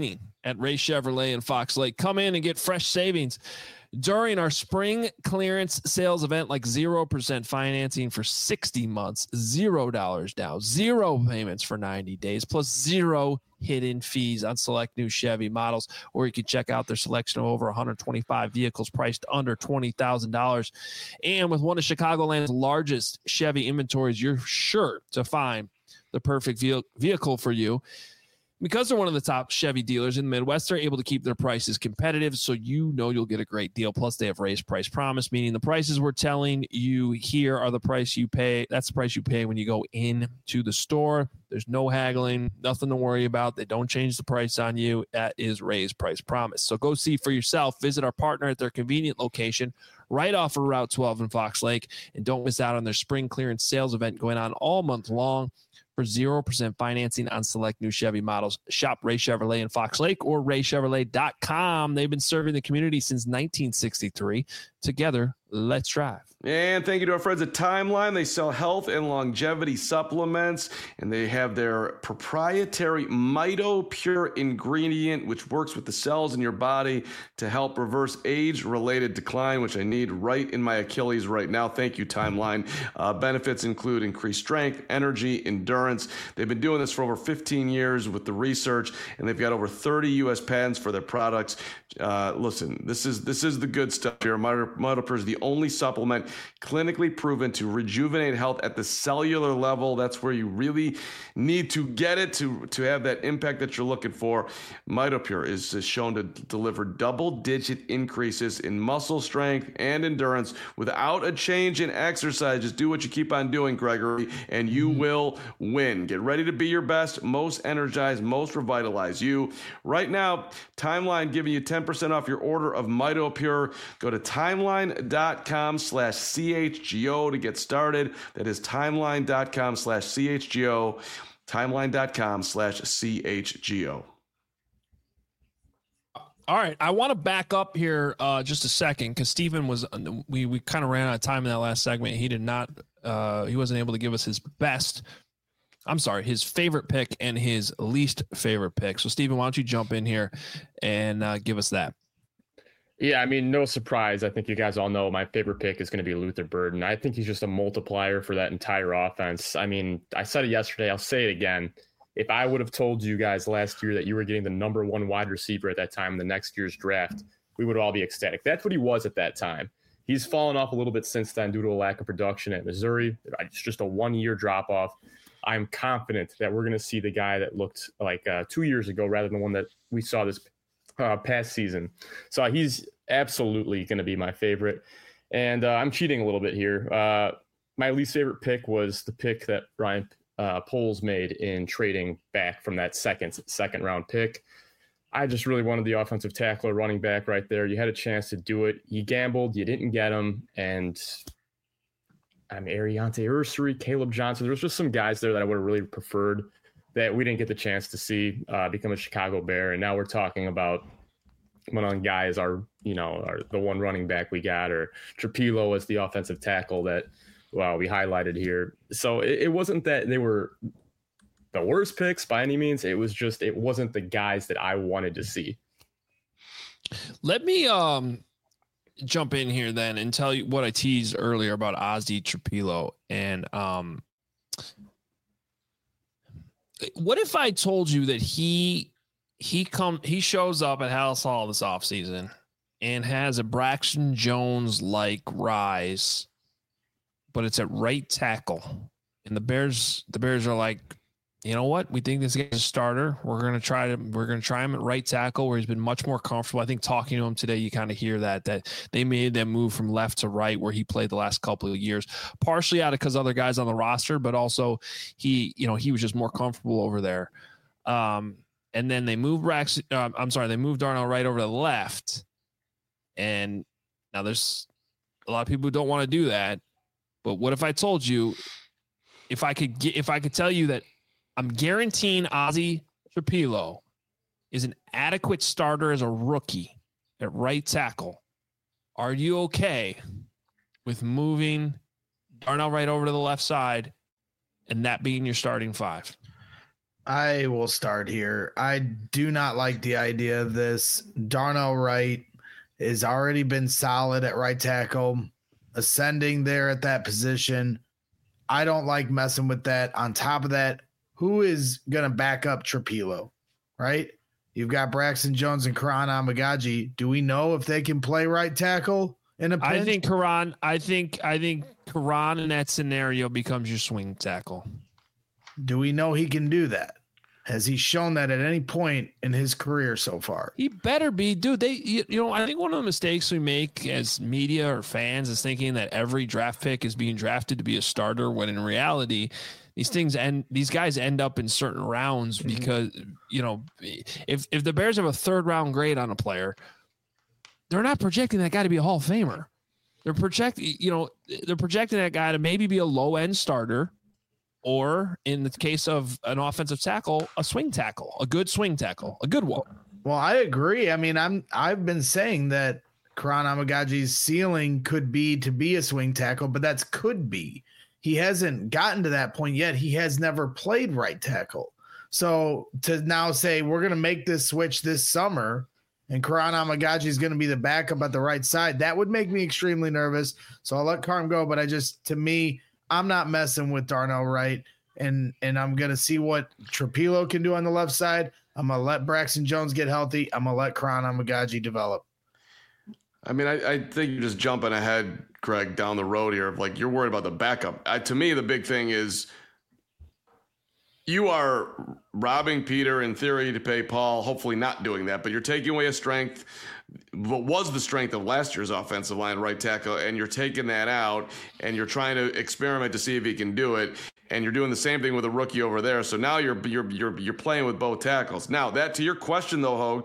at Ray Chevrolet in Fox Lake. Come in and get fresh savings during our spring clearance sales event, like zero percent financing for sixty months, zero dollars down, zero payments for ninety days, plus zero hidden fees on select new Chevy models. Or you can check out their selection of over one hundred twenty-five vehicles priced under twenty thousand dollars. And with one of Chicagoland's largest Chevy inventories, you're sure to find the perfect vehicle for you. Because they're one of the top Chevy dealers in the Midwest, they're able to keep their prices competitive, so you know you'll get a great deal. Plus, they have raised price promise, meaning the prices we're telling you here are the price you pay. That's the price you pay when you go into the store. There's no haggling, nothing to worry about. They don't change the price on you. That is raised price promise. So go see for yourself. Visit our partner at their convenient location right off of Route twelve in Fox Lake, and don't miss out on their spring clearance sales event going on all month long. For zero percent financing on select new Chevy models. Shop Ray Chevrolet in Fox Lake or ray chevrolet dot com. They've been serving the community since nineteen sixty-three. Together, let's drive. And thank you to our friends at Timeline. They sell health and longevity supplements, and they have their proprietary Mito Pure ingredient, which works with the cells in your body to help reverse age-related decline, which I need right in my Achilles right now. Thank you, Timeline. Uh, benefits include increased strength, energy, endurance. They've been doing this for over fifteen years with the research, and they've got over thirty U S patents for their products. Uh, listen, this is this is the good stuff here. Mito Pure is the only supplement clinically proven to rejuvenate health at the cellular level. That's where you really need to get it to, to have that impact that you're looking for. Mito Pure is, is shown to deliver double-digit increases in muscle strength and endurance without a change in exercise. Just do what you keep on doing, Gregory, and you will win. Get ready to be your best, most energized, most revitalized you. Right now, Timeline giving you ten percent off your order of Mito Pure. Go to timeline.com slash CHGO to get started. That is timeline.com slash CHGO. Timeline.com slash CHGO. All right. I want to back up here uh, just a second because Stephen was, we, we kind of ran out of time in that last segment. He did not, uh, he wasn't able to give us his best, I'm sorry, his favorite pick and his least favorite pick. So, Stephen, why don't you jump in here and uh, give us that? Yeah, I mean, no surprise. I think you guys all know my favorite pick is going to be Luther Burden. I think he's just a multiplier for that entire offense. I mean, I said it yesterday. I'll say it again. If I would have told you guys last year that you were getting the number one wide receiver at that time in the next year's draft, we would all be ecstatic. That's what he was at that time. He's fallen off a little bit since then due to a lack of production at Missouri. It's just a one-year drop-off. I'm confident that we're going to see the guy that looked like uh, two years ago rather than the one that we saw this Uh, past season. So he's absolutely going to be my favorite. And uh, I'm cheating a little bit here. Uh, my least favorite pick was the pick that Ryan uh, Poles made in trading back from that second second round pick. I just really wanted the offensive tackle or running back right there. You had a chance to do it. You gambled. You didn't get him. And I mean, Ariante Ursary, Caleb Johnson. There was just some guys there that I would have really preferred that we didn't get the chance to see uh, become a Chicago Bear. And now we're talking about one of the guys are, you know, are the one running back we got, or Trapilo as the offensive tackle that, well, we highlighted here. So it, it wasn't that they were the worst picks by any means. It was just, it wasn't the guys that I wanted to see. Let me um, jump in here then and tell you what I teased earlier about Ozzy Trapilo. And um, what if I told you that he he come he shows up at Hallis Hall this offseason and has a Braxton Jones like rise, but it's at right tackle, and the Bears the Bears are like, you know what? We think this guy's a starter. We're gonna try to we're gonna try him at right tackle where he's been much more comfortable. I think talking to him today, you kind of hear that that they made that move from left to right where he played the last couple of years, partially out of because other guys on the roster, but also he you know he was just more comfortable over there. Um, and then they moved Rex. Uh, I'm sorry, they moved Darnell right over to the left, and now there's a lot of people who don't want to do that. But what if I told you, if I could get if I could tell you that I'm guaranteeing Ozzy Trapilo is an adequate starter as a rookie at right tackle. Are you okay with moving Darnell right over to the left side and that being your starting five? I will start here. I do not like the idea of this. Darnell Wright has already been solid at right tackle, ascending there at that position. I don't like messing with that. On top of that, who is going to back up Trapilo, right? You've got Braxton Jones and Karan Amagaji. Do we know if they can play right tackle in a pinch? I think Karan, I think, I think Karan in that scenario becomes your swing tackle. Do we know he can do that? Has he shown that at any point in his career so far? He better be, dude. They, you, you know, I think one of the mistakes we make as media or fans is thinking that every draft pick is being drafted to be a starter, when in reality, these things end, these guys end up in certain rounds because, mm-hmm. you know, if if the Bears have a third round grade on a player, they're not projecting that guy to be a Hall of Famer. They're projecting, you know, they're projecting that guy to maybe be a low end starter. Or in the case of an offensive tackle, a swing tackle, a good swing tackle, a good one. Well, I agree. I mean, I'm I've been saying that Karan Amagaji's ceiling could be to be a swing tackle, but that's could be. He hasn't gotten to that point yet. He has never played right tackle. So to now say we're going to make this switch this summer and Karan Amagaji is going to be the backup at the right side, that would make me extremely nervous. So I'll let Carm go, but I just, to me, I'm not messing with Darnell Wright, and and I'm going to see what Trapilo can do on the left side. I'm going to let Braxton Jones get healthy. I'm going to let Karan Amagaji develop. I mean, I, I think you're just jumping ahead, Greg, down the road here. Like, you're worried about the backup. I, to me, the big thing is you are robbing Peter in theory to pay Paul, hopefully not doing that, but you're taking away a strength, what was the strength of last year's offensive line, right tackle, and you're taking that out and you're trying to experiment to see if he can do it, and you're doing the same thing with a rookie over there. So now you're you're you're you're playing with both tackles. Now, that to your question though, Hogue,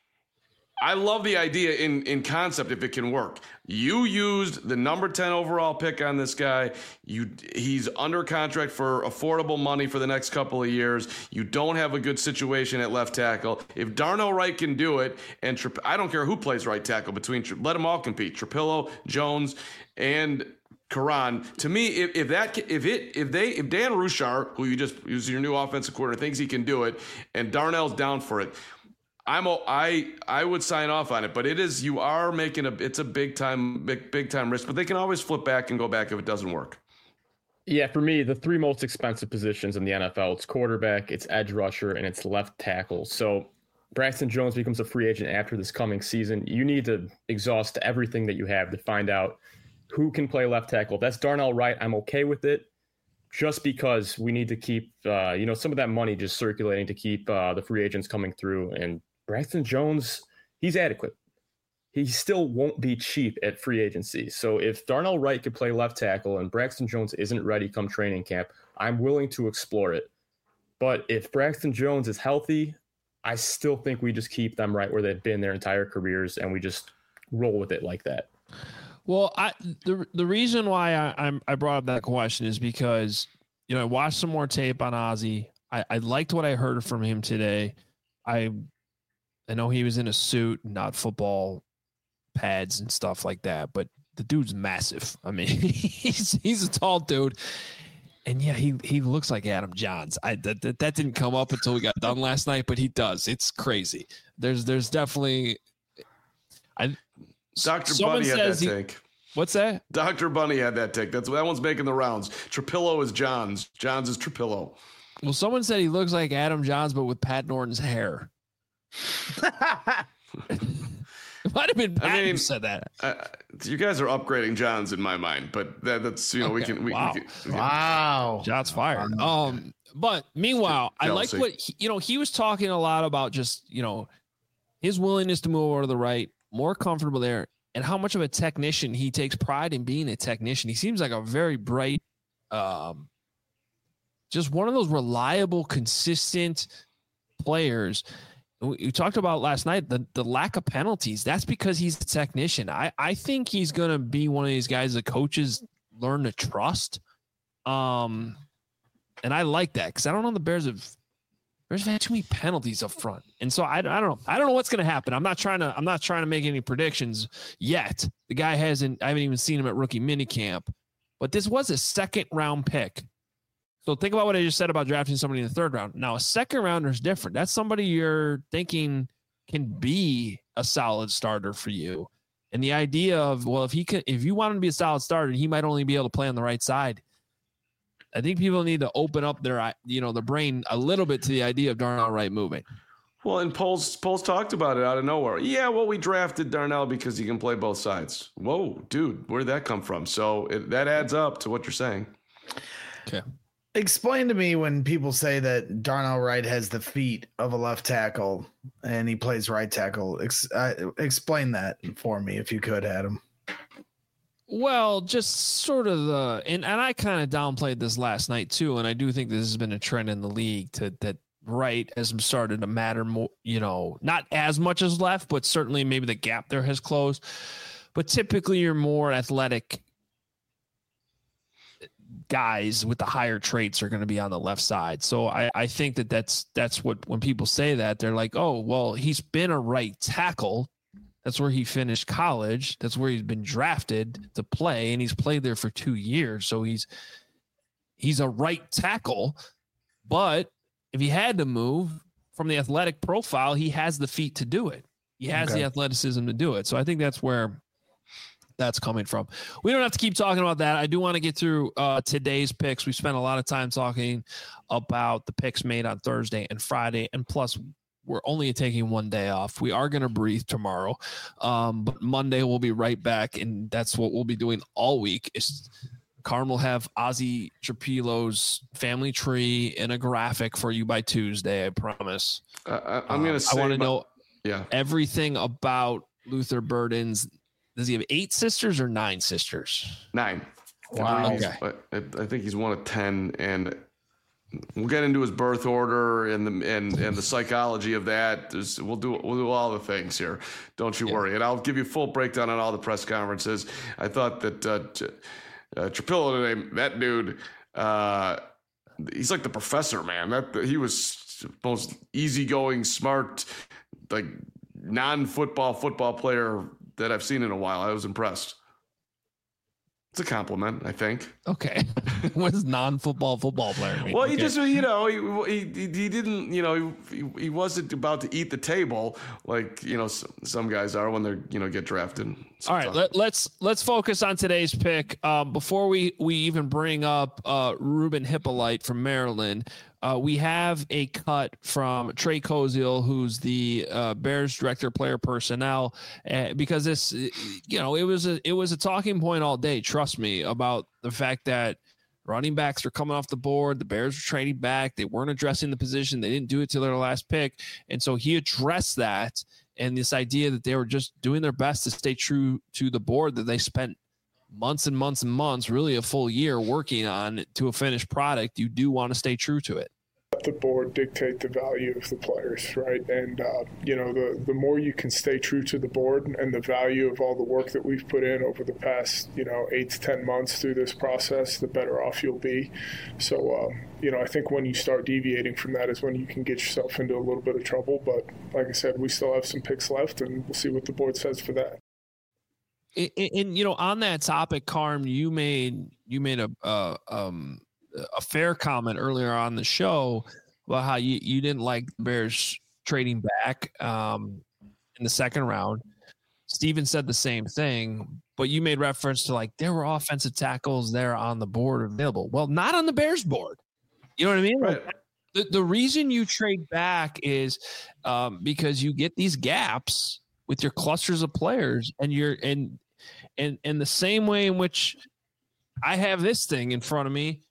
I love the idea in, in concept if it can work. You used the number ten overall pick on this guy. You he's under contract for affordable money for the next couple of years. You don't have a good situation at left tackle. If Darnell Wright can do it, and Tra- I don't care who plays right tackle between, let them all compete. Trapilo, Jones, and Karan. To me, if, if that if it if they if Dan Ruchar, who you just who's your new offensive coordinator, thinks he can do it, and Darnell's down for it, I'm a, I I would sign off on it, but it is you are making a it's a big time big big time risk, but they can always flip back and go back if it doesn't work. Yeah, for me, the three most expensive positions in the N F L, it's quarterback, it's edge rusher, and it's left tackle. So Braxton Jones becomes a free agent after this coming season. You need to exhaust everything that you have to find out who can play left tackle. If that's Darnell Wright, I'm okay with it, just because we need to keep uh, you know some of that money just circulating to keep uh, the free agents coming through. And Braxton Jones, he's adequate. He still won't be cheap at free agency. So if Darnell Wright could play left tackle and Braxton Jones isn't ready come training camp, I'm willing to explore it. But if Braxton Jones is healthy, I still think we just keep them right where they've been their entire careers, and we just roll with it like that. Well, I the the reason why I, I'm I brought up that question is because, you know, I watched some more tape on Ozzie. I, I liked what I heard from him today. I I know he was in a suit, not football pads and stuff like that, but the dude's massive. I mean, he's he's a tall dude, and yeah, he he looks like Adam Johns. I that that, that didn't come up until we got done last night, but he does. It's crazy. There's there's definitely I. Doctor Bunny had that he, take. What's that? Doctor Bunny had that take. That's that one's making the rounds. Trapilo is Johns. Johns is Trapilo. Well, someone said he looks like Adam Johns, but with Pat Norton's hair. It might have been Pat I mean, who said that. Uh, you guys are upgrading Johns in my mind, but that, that's you know okay. we can. We, wow. we can, we can. Wow. Shots fired. Um, but meanwhile, I like what he, you know. He was talking a lot about just you know his willingness to move over to the right, more comfortable there, and how much of a technician he takes pride in being a technician. He seems like a very bright, um, just one of those reliable, consistent players. We talked about last night, the, the lack of penalties. That's because he's a technician. I, I think he's going to be one of these guys that coaches learn to trust. Um, and I like that because I don't know the Bears have Bears have had too many penalties up front. And so I, I don't know. I don't know what's going to happen. I'm not trying to I'm not trying to make any predictions yet. The guy hasn't I haven't even seen him at rookie minicamp. But this was a second round pick So think about what I just said about drafting somebody in the third round. Now, a second rounder is different. That's somebody you're thinking can be a solid starter for you. And the idea of, well, if he can, if you want him to be a solid starter, he might only be able to play on the right side. I think people need to open up their, you know, their brain a little bit to the idea of Darnell Wright moving. Well, and Poles Poles talked about it out of nowhere. Yeah, well, we drafted Darnell because he can play both sides. Whoa, dude, where did that come from? So it, that adds up to what you're saying. Okay. Explain to me when people say that Darnell Wright has the feet of a left tackle and he plays right tackle. Ex- uh, explain that for me if you could, Adam. Well, just sort of the, and, and I kind of downplayed this last night too, and I do think this has been a trend in the league to that right has started to matter more, you know, not as much as left, but certainly maybe the gap there has closed. But typically you're more athletic guys with the higher traits are going to be on the left side. So I, I think that that's, that's what, when people say that, they're like, oh, well, he's been a right tackle. That's where he finished college. That's where he's been drafted to play, and he's played there for two years. So he's he's a right tackle. But if he had to move from the athletic profile, he has the feet to do it. He has okay. the athleticism to do it. So I think that's where that's coming from. We don't have to keep talking about that. I do want to get through uh, today's picks. We spent a lot of time talking about the picks made on Thursday and Friday, and plus we're only taking one day off. We are going to breathe tomorrow. Um, but Monday we'll be right back. And that's what we'll be doing all week. Is Carm will have Ozzy Trapillo's family tree in a graphic for you by Tuesday. I promise. Uh, I, I'm going to say, I want to know yeah, everything about Luther Burden's. Does he have eight sisters or nine sisters? Nine. Wow. Okay. I, I think he's one of ten, and we'll get into his birth order and the and and the psychology of that. There's, we'll do we'll do all the things here. Don't you yeah. worry. And I'll give you a full breakdown on all the press conferences. I thought that uh, uh, Trapillo today, that dude, uh, he's like the professor, man. That he was most easygoing, smart, like non-football football player that I've seen in a while. I was impressed. It's a compliment, I think. Okay. What does non-football football player mean? Well, he okay. just, you know, he, he he didn't, you know, he, he wasn't about to eat the table like, you know, some guys are when they're, you know, get drafted. All right, let, let's let's focus on today's pick. Um, before we we even bring up uh, Ruben Hippolyte from Maryland, uh, we have a cut from Trey Koziel, who's the uh, Bears director of player personnel, uh, because this, you know, it was a it was a talking point all day. Trust me, about the fact that running backs are coming off the board. The Bears were trading back. They weren't addressing the position. They didn't do it till their last pick, and so he addressed that. And this idea that they were just doing their best to stay true to the board that they spent months and months and months, really a full year working on to a finished product. You do want to stay true to it. Let the board dictate the value of the players, right? And, uh, you know, the, the more you can stay true to the board and the value of all the work that we've put in over the past, you know, eight to ten months through this process, the better off you'll be. So, um, you know, I think when you start deviating from that is when you can get yourself into a little bit of trouble. But like I said, we still have some picks left, and we'll see what the board says for that. And, and you know, on that topic, Carm, you made you made a uh, um. a fair comment earlier on the show about how you, you didn't like the Bears trading back um, in the second round. Steven said the same thing, but you made reference to like there were offensive tackles there on the board available. Well, not on the Bears board. You know what I mean? Right. The, the reason you trade back is um, because you get these gaps with your clusters of players, and you're and and and the same way in which I have this thing in front of me,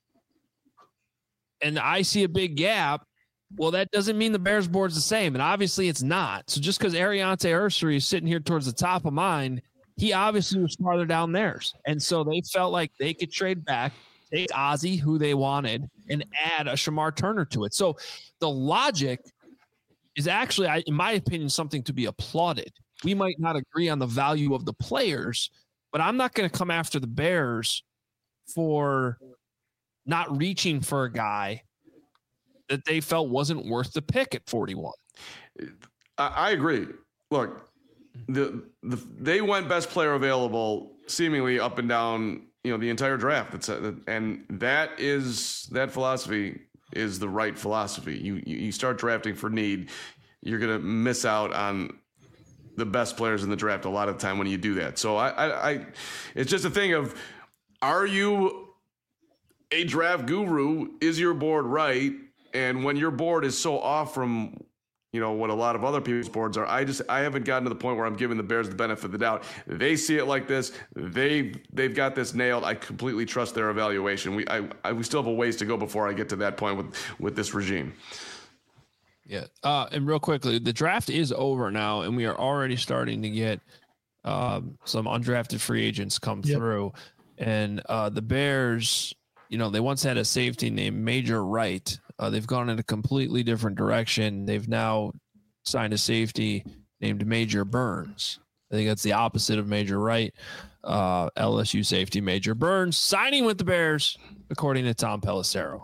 and I see a big gap, well, that doesn't mean the Bears board's the same. And obviously it's not. So just because Ariante Ursary is sitting here towards the top of mine, he obviously was farther down theirs. And so they felt like they could trade back, take Ozzy, who they wanted, and add a Shamar Turner to it. So the logic is actually, in my opinion, something to be applauded. We might not agree on the value of the players, but I'm not going to come after the Bears for not reaching for a guy that they felt wasn't worth the pick at forty-one. I, I agree. Look, the, the they went best player available seemingly up and down you know, the entire draft. That's a, and that is that philosophy is the right philosophy. You you, you start drafting for need, you're gonna miss out on the best players in the draft a lot of the time when you do that. So I, I, I it's just a thing of, are you a draft guru? Is your board right? And when your board is so off from, you know, what a lot of other people's boards are, I just, I haven't gotten to the point where I'm giving the Bears the benefit of the doubt. They see it like this. They, they've got this nailed. I completely trust their evaluation. We, I, I, we still have a ways to go before I get to that point with, with this regime. Yeah. Uh, and real quickly, the draft is over now, and we are already starting to get um, some undrafted free agents come yep. through. And uh, the Bears, you know, they once had a safety named Major Wright. Uh, they've gone in a completely different direction. They've now signed a safety named Major Burns. I think that's the opposite of Major Wright. Uh, L S U safety Major Burns signing with the Bears, according to Tom Pelissero.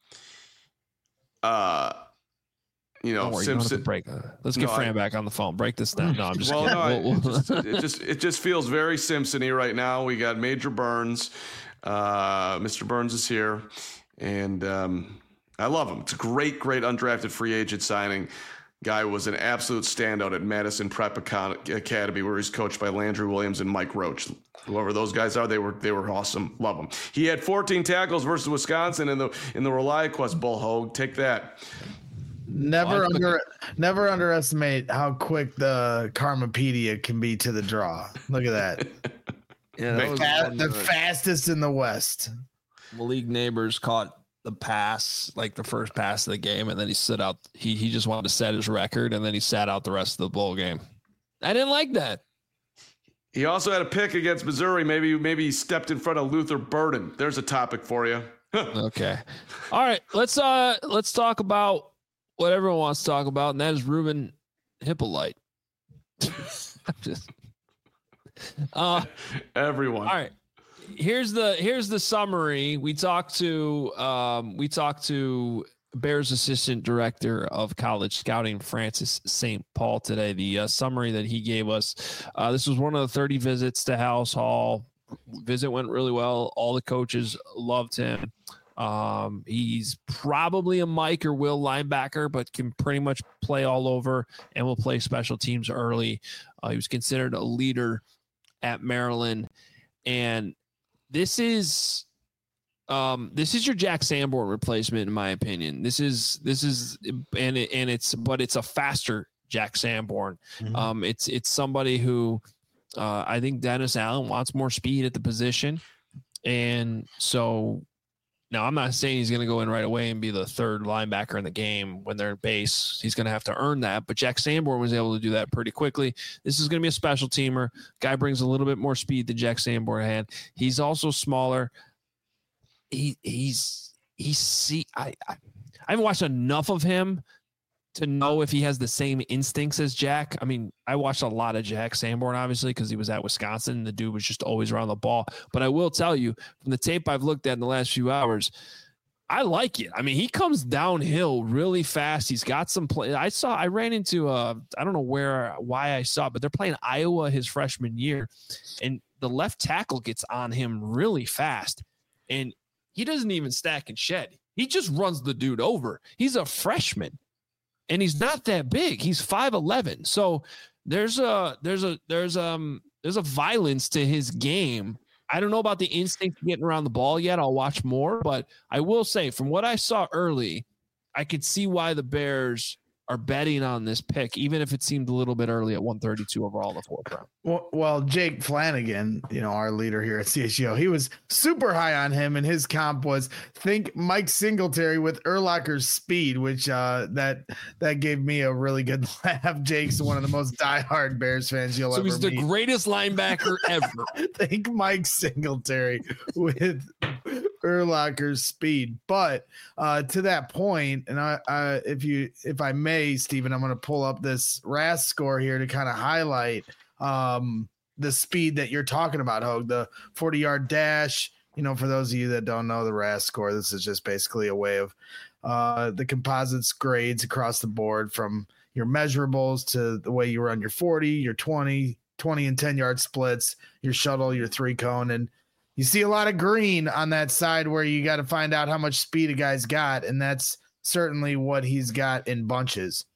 Uh, you know, worry, Simpson. You break. Uh, let's get no, Fran I, back on the phone. Break this down. No, I'm just well, kidding. no, we'll, we'll, it, just, it just it just feels very Simpson-y right now. We got Major Burns. Uh, Mister Burns is here, and um, I love him. It's a great, great undrafted free agent signing. Guy was an absolute standout at Madison Prep Academy, where he's coached by Landry Williams and Mike Roach. Whoever those guys are, they were they were awesome. Love them. He had fourteen tackles versus Wisconsin in the in the ReliaQuest Bull Hogue. Take that. Never well, under never underestimate how quick the Karmapedia can be to the draw. Look at that. Yeah, that was Fast, the fastest in the West. Malik Neighbors caught the pass, like the first pass of the game, and then he sit out. He he just wanted to set his record, and then he sat out the rest of the bowl game. I didn't like that. He also had a pick against Missouri. Maybe maybe he stepped in front of Luther Burden. There's a topic for you. Okay. All right. Let's uh let's talk about what everyone wants to talk about, and that is Ruben Hippolyte. just uh everyone. All right. Here's the here's the summary. We talked to um we talked to Bears assistant director of college scouting, Francis Saint Paul, today. The uh, summary that he gave us. Uh, this was one of the thirty visits to House Hall. Visit went really well. All the coaches loved him. Um, he's probably a Mike or Will linebacker, but can pretty much play all over and will play special teams early. Uh, he was considered a leader at Maryland, and this is um, this is your Jack Sanborn replacement, in my opinion. This is this is and it, and it's but it's a faster Jack Sanborn. Mm-hmm. Um, it's it's somebody who uh, I think Dennis Allen wants more speed at the position, and so. Now, I'm not saying he's going to go in right away and be the third linebacker in the game when they're in base. He's going to have to earn that. But Jack Sanborn was able to do that pretty quickly. This is going to be a special teamer. Guy brings a little bit more speed than Jack Sanborn had. He's also smaller. He he's he's see I, I I haven't watched enough of him to know if he has the same instincts as Jack. I mean, I watched a lot of Jack Sanborn, obviously, because he was at Wisconsin. And the dude was just always around the ball. But I will tell you, from the tape I've looked at in the last few hours, I like it. I mean, he comes downhill really fast. He's got some play. I saw, I ran into, uh, I don't know where, why I saw it, but they're playing Iowa his freshman year. And the left tackle gets on him really fast. And he doesn't even stack and shed. He just runs the dude over. He's a freshman. And he's not that big. He's five eleven. So there's a there's a there's um there's a violence to his game. I don't know about the instinct of getting around the ball yet. I'll watch more, but I will say from what I saw early, I could see why the Bears are betting on this pick, even if it seemed a little bit early at one thirty-two overall in the fourth round. Well, well, Jake Flanagan, you know, our leader here at C H G O, he was super high on him, and his comp was think Mike Singletary with Urlacher's speed, which uh, that that gave me a really good laugh. Jake's one of the most diehard Bears fans you'll so ever meet. So he's the greatest linebacker ever. Think Mike Singletary with Urlacher's speed. But uh, to that point, and I, uh, if you, if I may, Stephen, I'm going to pull up this R A S score here to kind of highlight um, the speed that you're talking about, Hogue, the forty yard dash. You know, for those of you that don't know the R A S score, this is just basically a way of uh, the composites grades across the board from your measurables to the way you run your forty, your twenty, twenty and ten yard splits, your shuttle, your three cone. And you see a lot of green on that side where you got to find out how much speed a guy's got, and that's certainly what he's got in bunches.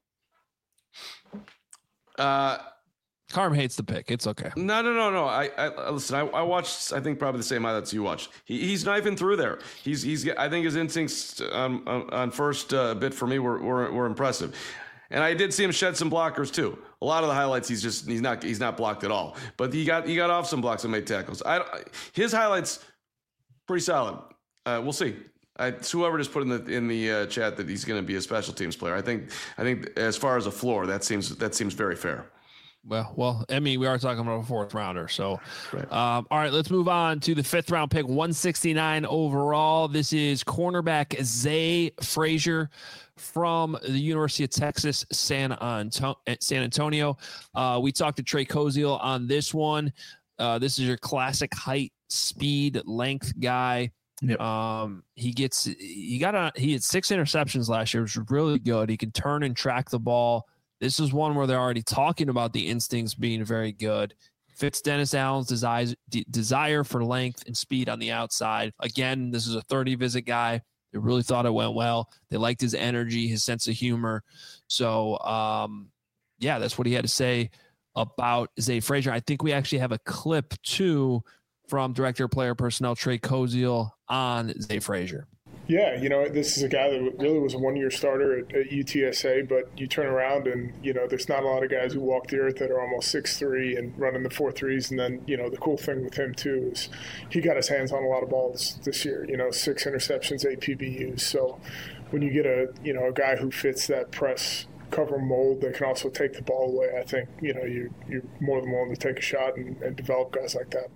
Uh, Carm hates the pick. It's okay. No, no, no, no. I, I listen. I, I watched. I think probably the same highlights you watched. He, he's knifing through there. He's he's. I think his instincts on on, on first uh, bit for me were, were were impressive, and I did see him shed some blockers too. A lot of the highlights, he's just he's not he's not blocked at all. But he got he got off some blocks and made tackles. I his highlights pretty solid. Uh, we'll see. I, whoever just put in the in the uh, chat that he's going to be a special teams player. I think I think as far as a floor, that seems that seems very fair. Well, well, I mean, we are talking about a fourth rounder. So, right. um, all right, let's move on to the fifth round pick, one sixty-nine overall. This is cornerback Zay Frazier from the University of Texas, San, Anto- San Antonio. Uh, we talked to Trey Koziel on this one. Uh, this is your classic height, speed, length guy. Yep. Um, he gets, he got a, he had six interceptions last year, which was really good. He can turn and track the ball. This is one where they're already talking about the instincts being very good. Fits Dennis Allen's desire, de- desire for length and speed on the outside. Again, this is a thirty visit guy. They really thought it went well. They liked his energy, his sense of humor. So, um, yeah, that's what he had to say about Zay Frazier. I think we actually have a clip too from Director of Player Personnel Trey Koziel on Zay Frazier. Yeah, you know, this is a guy that really was a one-year starter at, at U T S A, but you turn around and, you know, there's not a lot of guys who walk the earth that are almost six three and running the four threes. And then, you know, the cool thing with him, too, is he got his hands on a lot of balls this year, you know, six interceptions, eight P B Us. So when you get a, you know, a guy who fits that press cover mold that can also take the ball away, I think, you know, you, you're more than willing to take a shot and, and develop guys like that.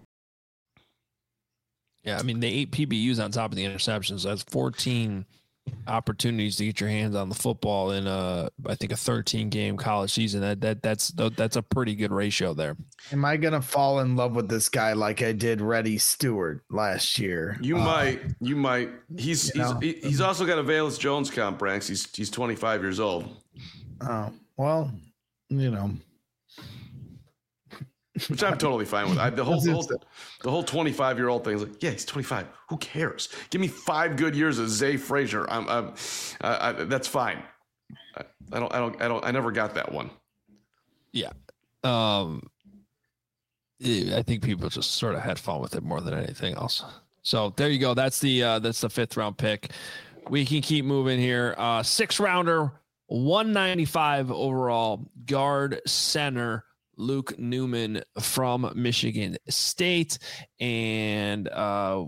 Yeah, I mean, the eight P B Us on top of the interceptions, that's fourteen opportunities to get your hands on the football in a, I think, a thirteen game college season. That that that's that's a pretty good ratio there. Am I gonna fall in love with this guy like I did Reddy Stewart last year? You uh, might, you might. He's you he's know? he's also got a Valus Jones comp, Branks. He's he's twenty-five years old. Oh well, you know. Which I'm totally fine with. I, the whole the whole, the whole twenty-five year old thing is like, yeah, he's twenty-five. Who cares? Give me five good years of Zay Frazier. I'm, I'm uh, I, that's fine. I, I don't, I don't, I don't, I never got that one. Yeah, um, I think people just sort of had fun with it more than anything else. So there you go. That's the uh, that's the fifth round pick. We can keep moving here. Uh, sixth rounder, one ninety-five overall, guard center. Luke Newman from Michigan State. And uh,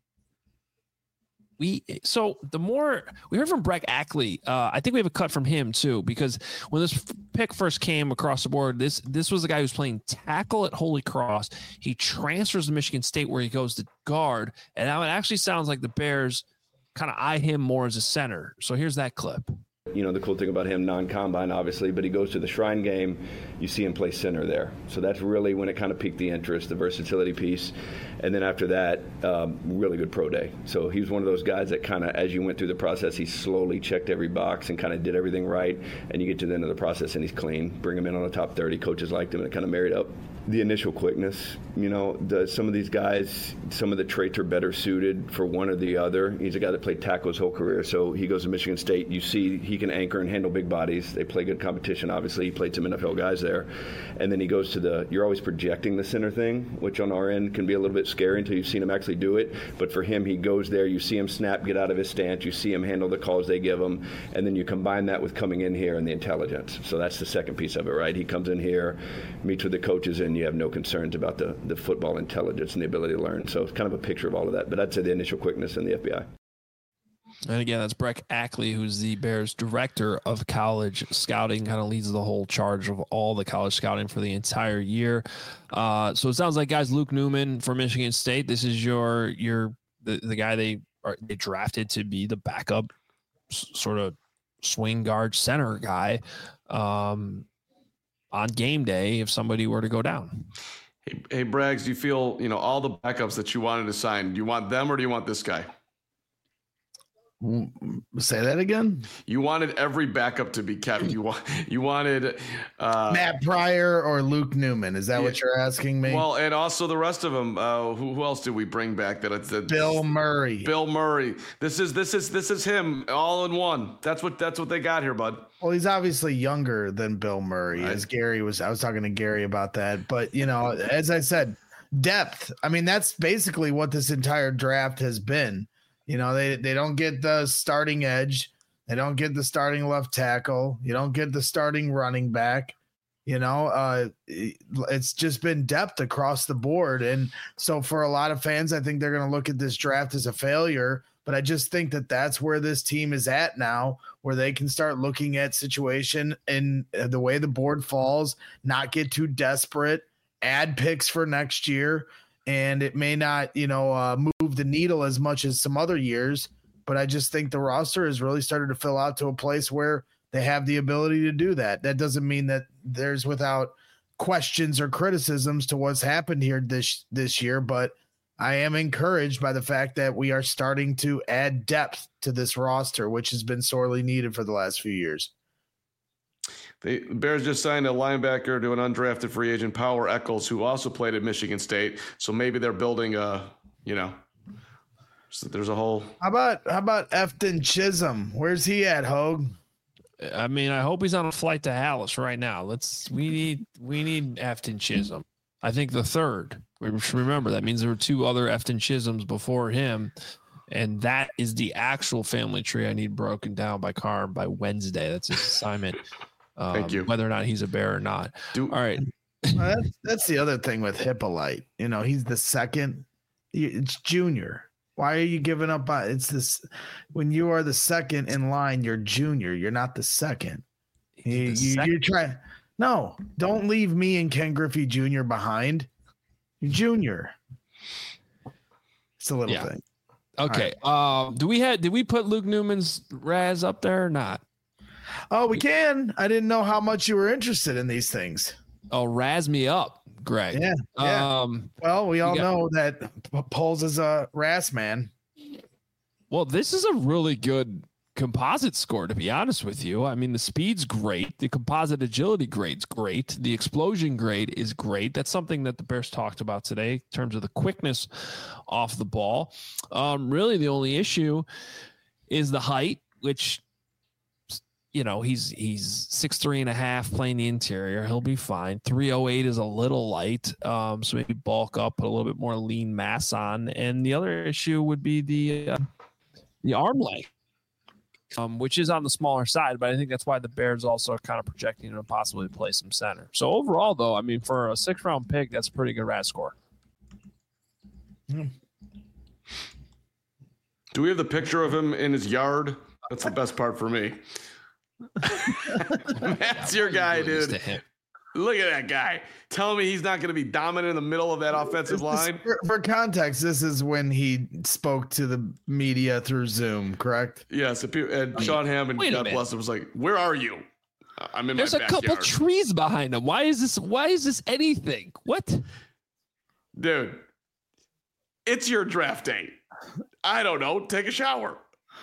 we, so the more we heard from Breck Ackley, uh, I think we have a cut from him too, because when this pick first came across the board, this, this was the guy who's playing tackle at Holy Cross. He transfers to Michigan State where he goes to guard. And now it actually sounds like the Bears kind of eye him more as a center. So here's that clip. You know, the cool thing about him, non-combine, obviously, but he goes to the Shrine game, you see him play center there. So that's really when it kind of piqued the interest, the versatility piece. And then after that, um, really good pro day. So he was one of those guys that kind of, as you went through the process, he slowly checked every box and kind of did everything right. And you get to the end of the process and he's clean. Bring him in on the top thirty. Coaches liked him and it kind of married up. The initial quickness, you know, the, some of these guys, some of the traits are better suited for one or the other. He's a guy that played tackle his whole career. So he goes to Michigan State. You see he can anchor and handle big bodies. They play good competition, obviously. He played some N F L guys there. And then he goes to the, you're always projecting the center thing, which on our end can be a little bit scary until you've seen him actually do it. But for him, he goes there. You see him snap, get out of his stance. You see him handle the calls they give him. And then you combine that with coming in here and the intelligence. So that's the second piece of it, right? He comes in here, meets with the coaches, and you have no concerns about the, the football intelligence and the ability to learn. So it's kind of a picture of all of that. But I'd say the initial quickness in the F B I. And again, that's Breck Ackley, who's the Bears director of college scouting, kind of leads the whole charge of all the college scouting for the entire year. Uh, so it sounds like, guys, Luke Newman from Michigan State. This is your your the, the guy they are they drafted to be the backup s- sort of swing guard center guy um, on game day if somebody were to go down. Hey, hey, Braggs, do you feel, you know, all the backups that you wanted to sign, do you want them or do you want this guy? Say that again. You wanted every backup to be kept. You want you wanted uh, Matt Pryor or Luke Newman. Is that yeah, what you're asking me? Well, and also the rest of them. Uh, who, who else did we bring back? That it's that Bill Murray. Bill Murray. This is this is this is him all in one. That's what that's what they got here, bud. Well, he's obviously younger than Bill Murray. Right. As Gary was, I was talking to Gary about that. But you know, as I said, depth. I mean, that's basically what this entire draft has been. You know, they, they don't get the starting edge. They don't get the starting left tackle. You don't get the starting running back. You know, uh, it's just been depth across the board. And so for a lot of fans, I think they're going to look at this draft as a failure. But I just think that that's where this team is at now, where they can start looking at situation and the way the board falls, not get too desperate, add picks for next year. And it may not, you know, uh, move the needle as much as some other years, but I just think the roster has really started to fill out to a place where they have the ability to do that. That doesn't mean that there's without questions or criticisms to what's happened here this this year, but I am encouraged by the fact that we are starting to add depth to this roster, which has been sorely needed for the last few years. The Bears just signed a linebacker to an undrafted free agent, Power Eccles, who also played at Michigan State. So maybe they're building a, you know, so there's a whole. How about how about Efton Chisholm? Where's he at, Hogue? I mean, I hope he's on a flight to Dallas right now. Let's we need we need Efton Chisholm. I think the third. Remember that means there were two other Efton Chisholms before him, and that is the actual family tree I need broken down by Carr by Wednesday. That's his assignment. Um, Thank you. Whether or not he's a Bear or not. Do, All right. Well, that's, that's the other thing with Hippolyte. You know, he's the second. It's junior. Why are you giving up on it's this? When you are the second in line, you're junior. You're not the second. You, you, second. You're trying. No, don't leave me and Ken Griffey Junior behind. You're junior. It's a little Yeah. thing. Okay. Right. Um, do we have? Did we put Luke Newman's Raz up there or not? Oh, we can. I didn't know how much you were interested in these things. Oh, razz me up, Greg. Yeah. yeah. Um, well, we all got, know that Poles is a Ras man. Well, this is a really good composite score, to be honest with you. I mean, the speed's great. The composite agility grade's great. The explosion grade is great. That's something that the Bears talked about today in terms of the quickness off the ball. Um, really, the only issue is the height, which – you know, he's he's six three and a half playing the interior. He'll be fine. three oh eight is a little light, um, so maybe bulk up, put a little bit more lean mass on. And the other issue would be the uh, the arm length, um, which is on the smaller side. But I think that's why the Bears also are kind of projecting him to possibly play some center. So overall, though, I mean, for a six round pick, that's a pretty good R A S score. Do we have the picture of him in his yard? That's the best part for me. That's your guy, dude. Look at that guy. Tell me he's not going to be dominant in the middle of that offensive line. For, for context, this is when he spoke to the media through Zoom, correct? Yes. And Sean Hammond, God bless him, was like, "Where are you?" I'm in There's my a backyard. couple trees behind him. Why is this? Why is this anything? What, dude? It's your draft day. I don't know. Take a shower.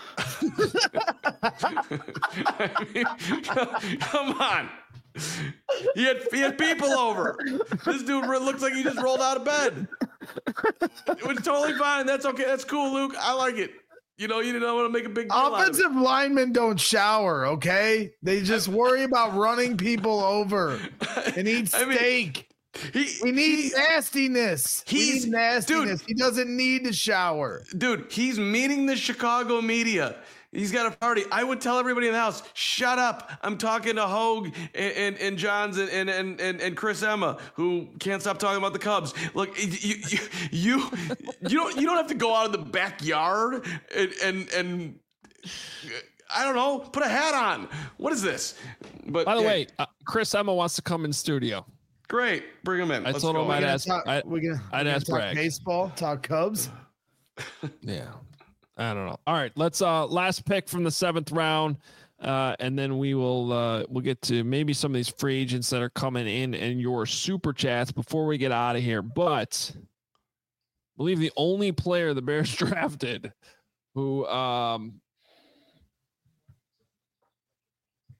I mean, come on. He had, he had people over. This dude looks like he just rolled out of bed. It was totally fine. That's okay. That's cool, Luke. I like it. You know, you didn't want to make a big deal Offensive out of it. linemen don't shower, okay? They just worry about running people over and eat I mean, steak. He, we need he, nastiness. He's we need nastiness. Dude, he doesn't need to shower. Dude, he's meeting the Chicago media. He's got a party. I would tell everybody in the house, shut up. I'm talking to Hogue and, and, and Johns and, and, and, and Chris Emma, who can't stop talking about the Cubs. Look, you you you, you don't you don't have to go out in the backyard and and, and I don't know, put a hat on. What is this? But by the yeah. way, uh, Chris Emma wants to come in studio. Great, bring him in. I Let's told go. him I'd ask. Talk, I, we're gonna, I'd we're ask gonna Bragg. Talk baseball, talk Cubs. Yeah, I don't know. All right, let's uh last pick from the seventh round, uh, and then we will uh we'll get to maybe some of these free agents that are coming in and your super chats before we get out of here. But I believe the only player the Bears drafted who um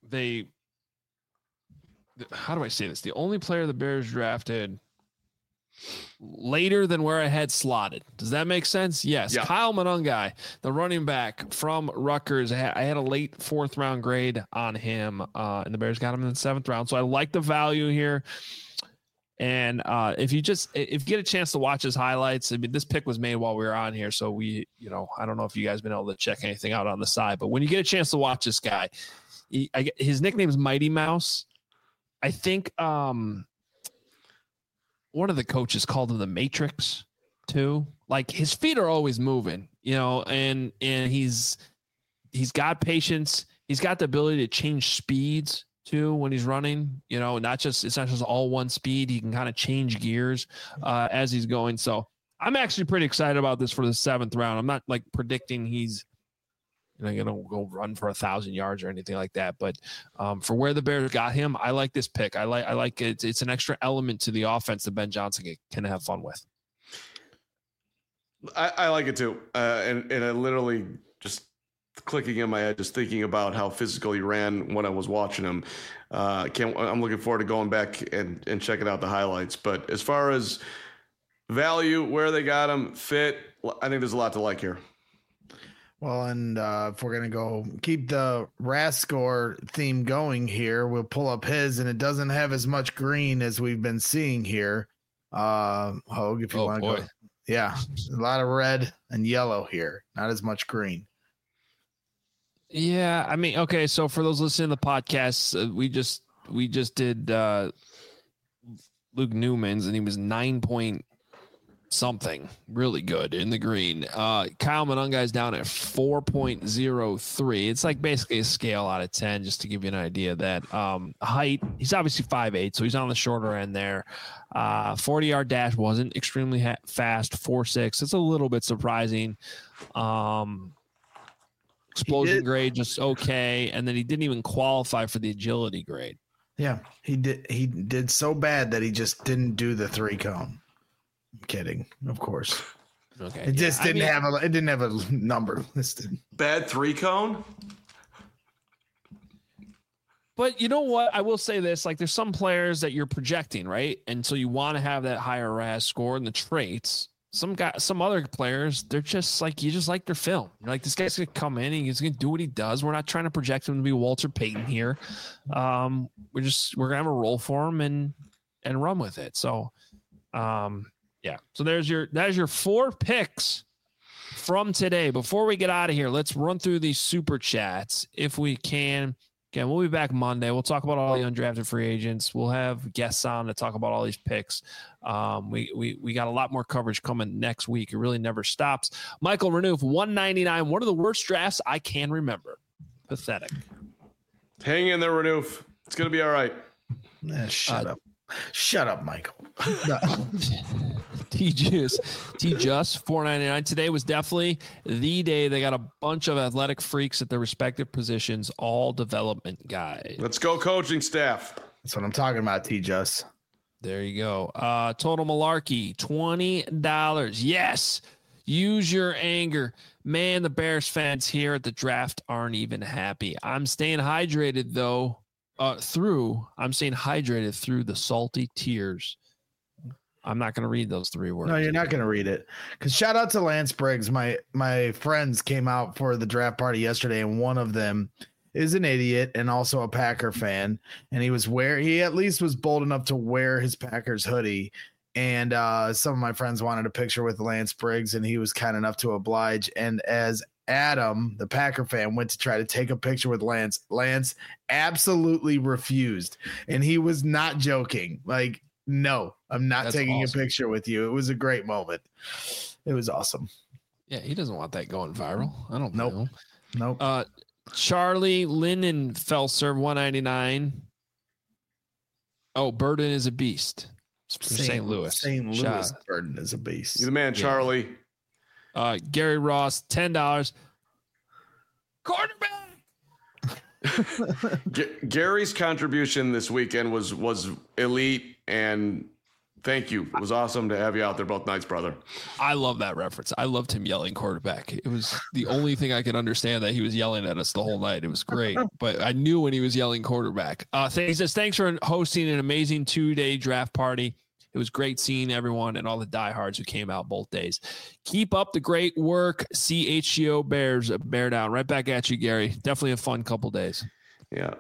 they, how do I say this? The only player the Bears drafted later than where I had slotted. Does that make sense? Yes. Yeah. Kyle Monangai, the running back from Rutgers. I had a late fourth round grade on him, uh, and the Bears got him in the seventh round. So I like the value here. And uh, if you just if you get a chance to watch his highlights, I mean, this pick was made while we were on here, so we, you know, I don't know if you guys been able to check anything out on the side, but when you get a chance to watch this guy, he, I, his nickname is Mighty Mouse. I think um, one of the coaches called him the Matrix too. Like his feet are always moving, you know, and and he's he's got patience. He's got the ability to change speeds too when he's running, you know, not just it's not just all one speed. He can kind of change gears uh, as he's going. So I'm actually pretty excited about this for the seventh round. I'm not like predicting he's you know gonna go run for a thousand yards or anything like that. But um, for where the Bears got him, I like this pick. I like I like it. It's an extra element to the offense that Ben Johnson can have fun with. I, I like it too, uh, and and I literally just. Clicking in my head, just thinking about how physical he ran when I was watching him. Uh, can't, I'm looking forward to going back and, and checking out the highlights. But as far as value, where they got him, fit, I think there's a lot to like here. Well, and uh, if we're going to go keep the R A S score theme going here, we'll pull up his, and it doesn't have as much green as we've been seeing here. Uh, Hogue, if you oh, want to go. Yeah, a lot of red and yellow here, not as much green. Yeah, I mean, okay. So for those listening to the podcast, uh, we just we just did uh, Luke Newman's, and he was nine point something, really good in the green. Uh, Kyle Monangai's down at four point zero three. It's like basically a scale out of ten, just to give you an idea of that. Um, height, he's obviously five eight, so he's on the shorter end there. Uh, forty yard dash wasn't extremely ha- fast, four six. It's a little bit surprising. Um, Explosion grade just okay, and then he didn't even qualify for the agility grade. Yeah, he did. He did so bad that he just didn't do the three cone. I'm kidding, of course. Okay, it yeah. just didn't I mean, have a. It didn't have a number listed. Bad three cone. But you know what? I will say this: like, there's some players that you're projecting, right? And so you want to have that higher R A S score and the traits. Some guy, some other players, they're just like, you just like their film. You're like, this guy's going to come in and he's going to do what he does. We're not trying to project him to be Walter Payton here. Um, we're just, we're going to have a role for him and, and run with it. So, um, yeah. So there's your, there's your four picks from today. Before we get out of here, let's run through these super chats if we can. Again, we'll be back Monday. We'll talk about all the undrafted free agents. We'll have guests on to talk about all these picks. Um, we we we got a lot more coverage coming next week. It really never stops. Michael Renouf, one ninety-nine, one of the worst drafts I can remember. Pathetic. Hang in there, Renouf. It's going to be all right. Nah, shut uh, up. Shut up, Michael. T Just T Just four ninety-nine. Today was definitely the day they got a bunch of athletic freaks at their respective positions, all development guys. Let's go, coaching staff. That's what I'm talking about, T Just. There you go. Uh, total malarkey, twenty dollars. Yes. Use your anger. Man, the Bears fans here at the draft aren't even happy. I'm staying hydrated, though. Uh, through, I'm staying hydrated through the salty tears. I'm not going to read those three words. No, you're not going to read it. Because shout out to Lance Briggs. My my friends came out for the draft party yesterday, and one of them is an idiot and also a Packer fan. And he was wear he at least was bold enough to wear his Packers hoodie. And uh, some of my friends wanted a picture with Lance Briggs, and he was kind enough to oblige. And as Adam, the Packer fan, went to try to take a picture with Lance, Lance absolutely refused. And he was not joking. Like, no, I'm not That's taking awesome. a picture with you. It was a great moment. It was awesome. Yeah, he doesn't want that going viral. I don't nope. know. Nope. Uh, Charlie Lindenfelser, one ninety-nine. Oh, Burden is a beast. Saint Louis. Saint Louis. Shot. Burden is a beast. You're the man, Charlie. Yeah. Uh, Gary Ross, ten dollars. Quarterback. G- Gary's contribution this weekend was was elite, and Thank you. It was awesome to have you out there both nights, brother. I love that reference. I loved him yelling quarterback. It was the only thing I could understand that he was yelling at us the whole night. It was great, but I knew when he was yelling quarterback. Uh, he says, thanks for hosting an amazing two-day draft party. It was great seeing everyone and all the diehards who came out both days. Keep up the great work. C H G O Bears, bear down. Right back at you, Gary. Definitely a fun couple days. Yeah.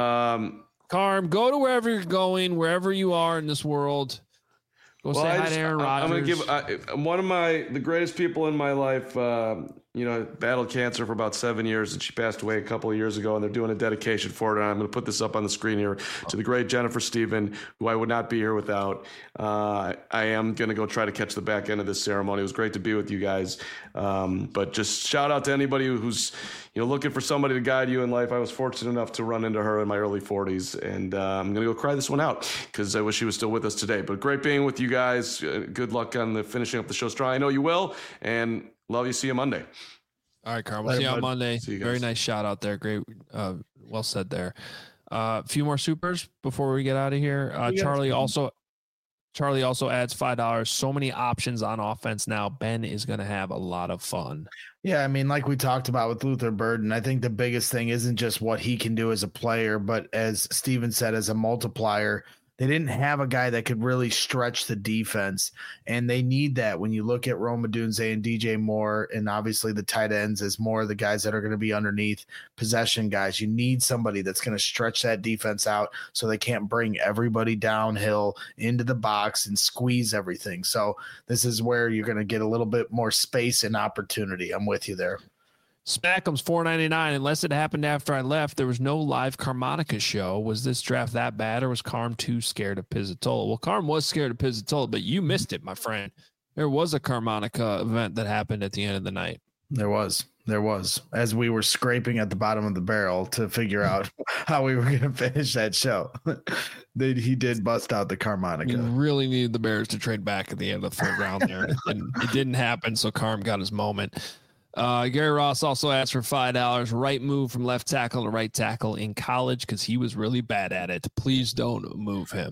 Um, Carm, go to wherever you're going, wherever you are in this world. Go well, say I hi just, to Aaron I'm going to Rodgers. give I, one of my the greatest people in my life. Um, you know, battled cancer for about seven years, and she passed away a couple of years ago. And they're doing a dedication for it. And I'm going to put this up on the screen here to the great Jennifer Stephen, who I would not be here without. Uh, I am going to go try to catch the back end of this ceremony. It was great to be with you guys. Um, but just shout out to anybody who's you know looking for somebody to guide you in life. I was fortunate enough to run into her in my early forties, and uh, I'm going to go cry this one out because I wish she was still with us today. But great being with you guys. Uh, good luck on the finishing up the show strong. I know you will, and love you. See you Monday. All right, Carl. We'll see you on Monday. You Very nice shout out there. Great. Uh, well said there. A uh, few more supers before we get out of here. Uh, Charlie also Charlie also adds five dollars. So many options on offense now. Ben is going to have a lot of fun. Yeah, I mean, like we talked about with Luther Burden, I think the biggest thing isn't just what he can do as a player, but as Steven said, as a multiplier. They didn't have a guy that could really stretch the defense, and they need that when you look at Rome Odunze and D J Moore, and obviously the tight ends is more the guys that are going to be underneath possession guys. You need somebody that's going to stretch that defense out so they can't bring everybody downhill into the box and squeeze everything. So this is where you're going to get a little bit more space and opportunity. I'm with you there. Spackham's four ninety-nine. Unless it happened after I left, there was no live Carmonica show. Was this draft that bad, or was Carm too scared of Pizzatola? Well, Carm was scared of Pizzatola, but you missed it, my friend. There was a Carmonica event that happened at the end of the night. There was. There was. As we were scraping at the bottom of the barrel to figure out how we were going to finish that show, they, he did bust out the Carmonica. We really needed the Bears to trade back at the end of the third round there. And it didn't happen, so Carm got his moment. Uh, Gary Ross also asked for five dollars. Right move from left tackle to right tackle in college because he was really bad at it. Please don't move him.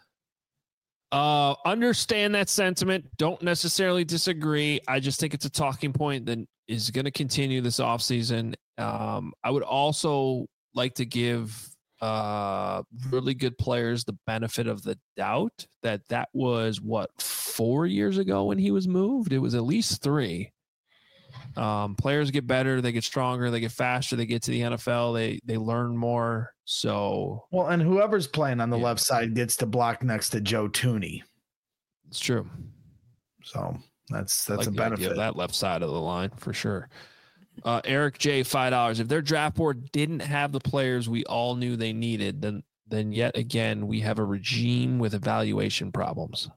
Uh, understand that sentiment. Don't necessarily disagree. I just think it's a talking point that is going to continue this offseason. Um, I would also like to give uh, really good players the benefit of the doubt that that was, what, four years ago when he was moved? It was at least three. Um, players get better, they get stronger, they get faster, they get to the N F L, they they learn more. So well, and whoever's playing on the yeah. left side gets to block next to Joe Thuney. It's true. So that's that's like a benefit of that left side of the line for sure. Uh, Eric J, five dollars. If their draft board didn't have the players we all knew they needed, then then yet again we have a regime with evaluation problems.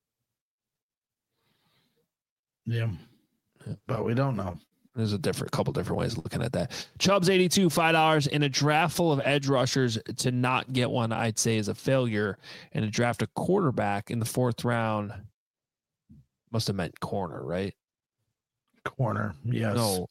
Yeah. But we don't know. There's a different couple different ways of looking at that. Chubbs eighty-two, five dollars. In a draft full of edge rushers, to not get one, I'd say, is a failure. And to draft a quarterback in the fourth round must have meant corner, right? Corner, yes. No.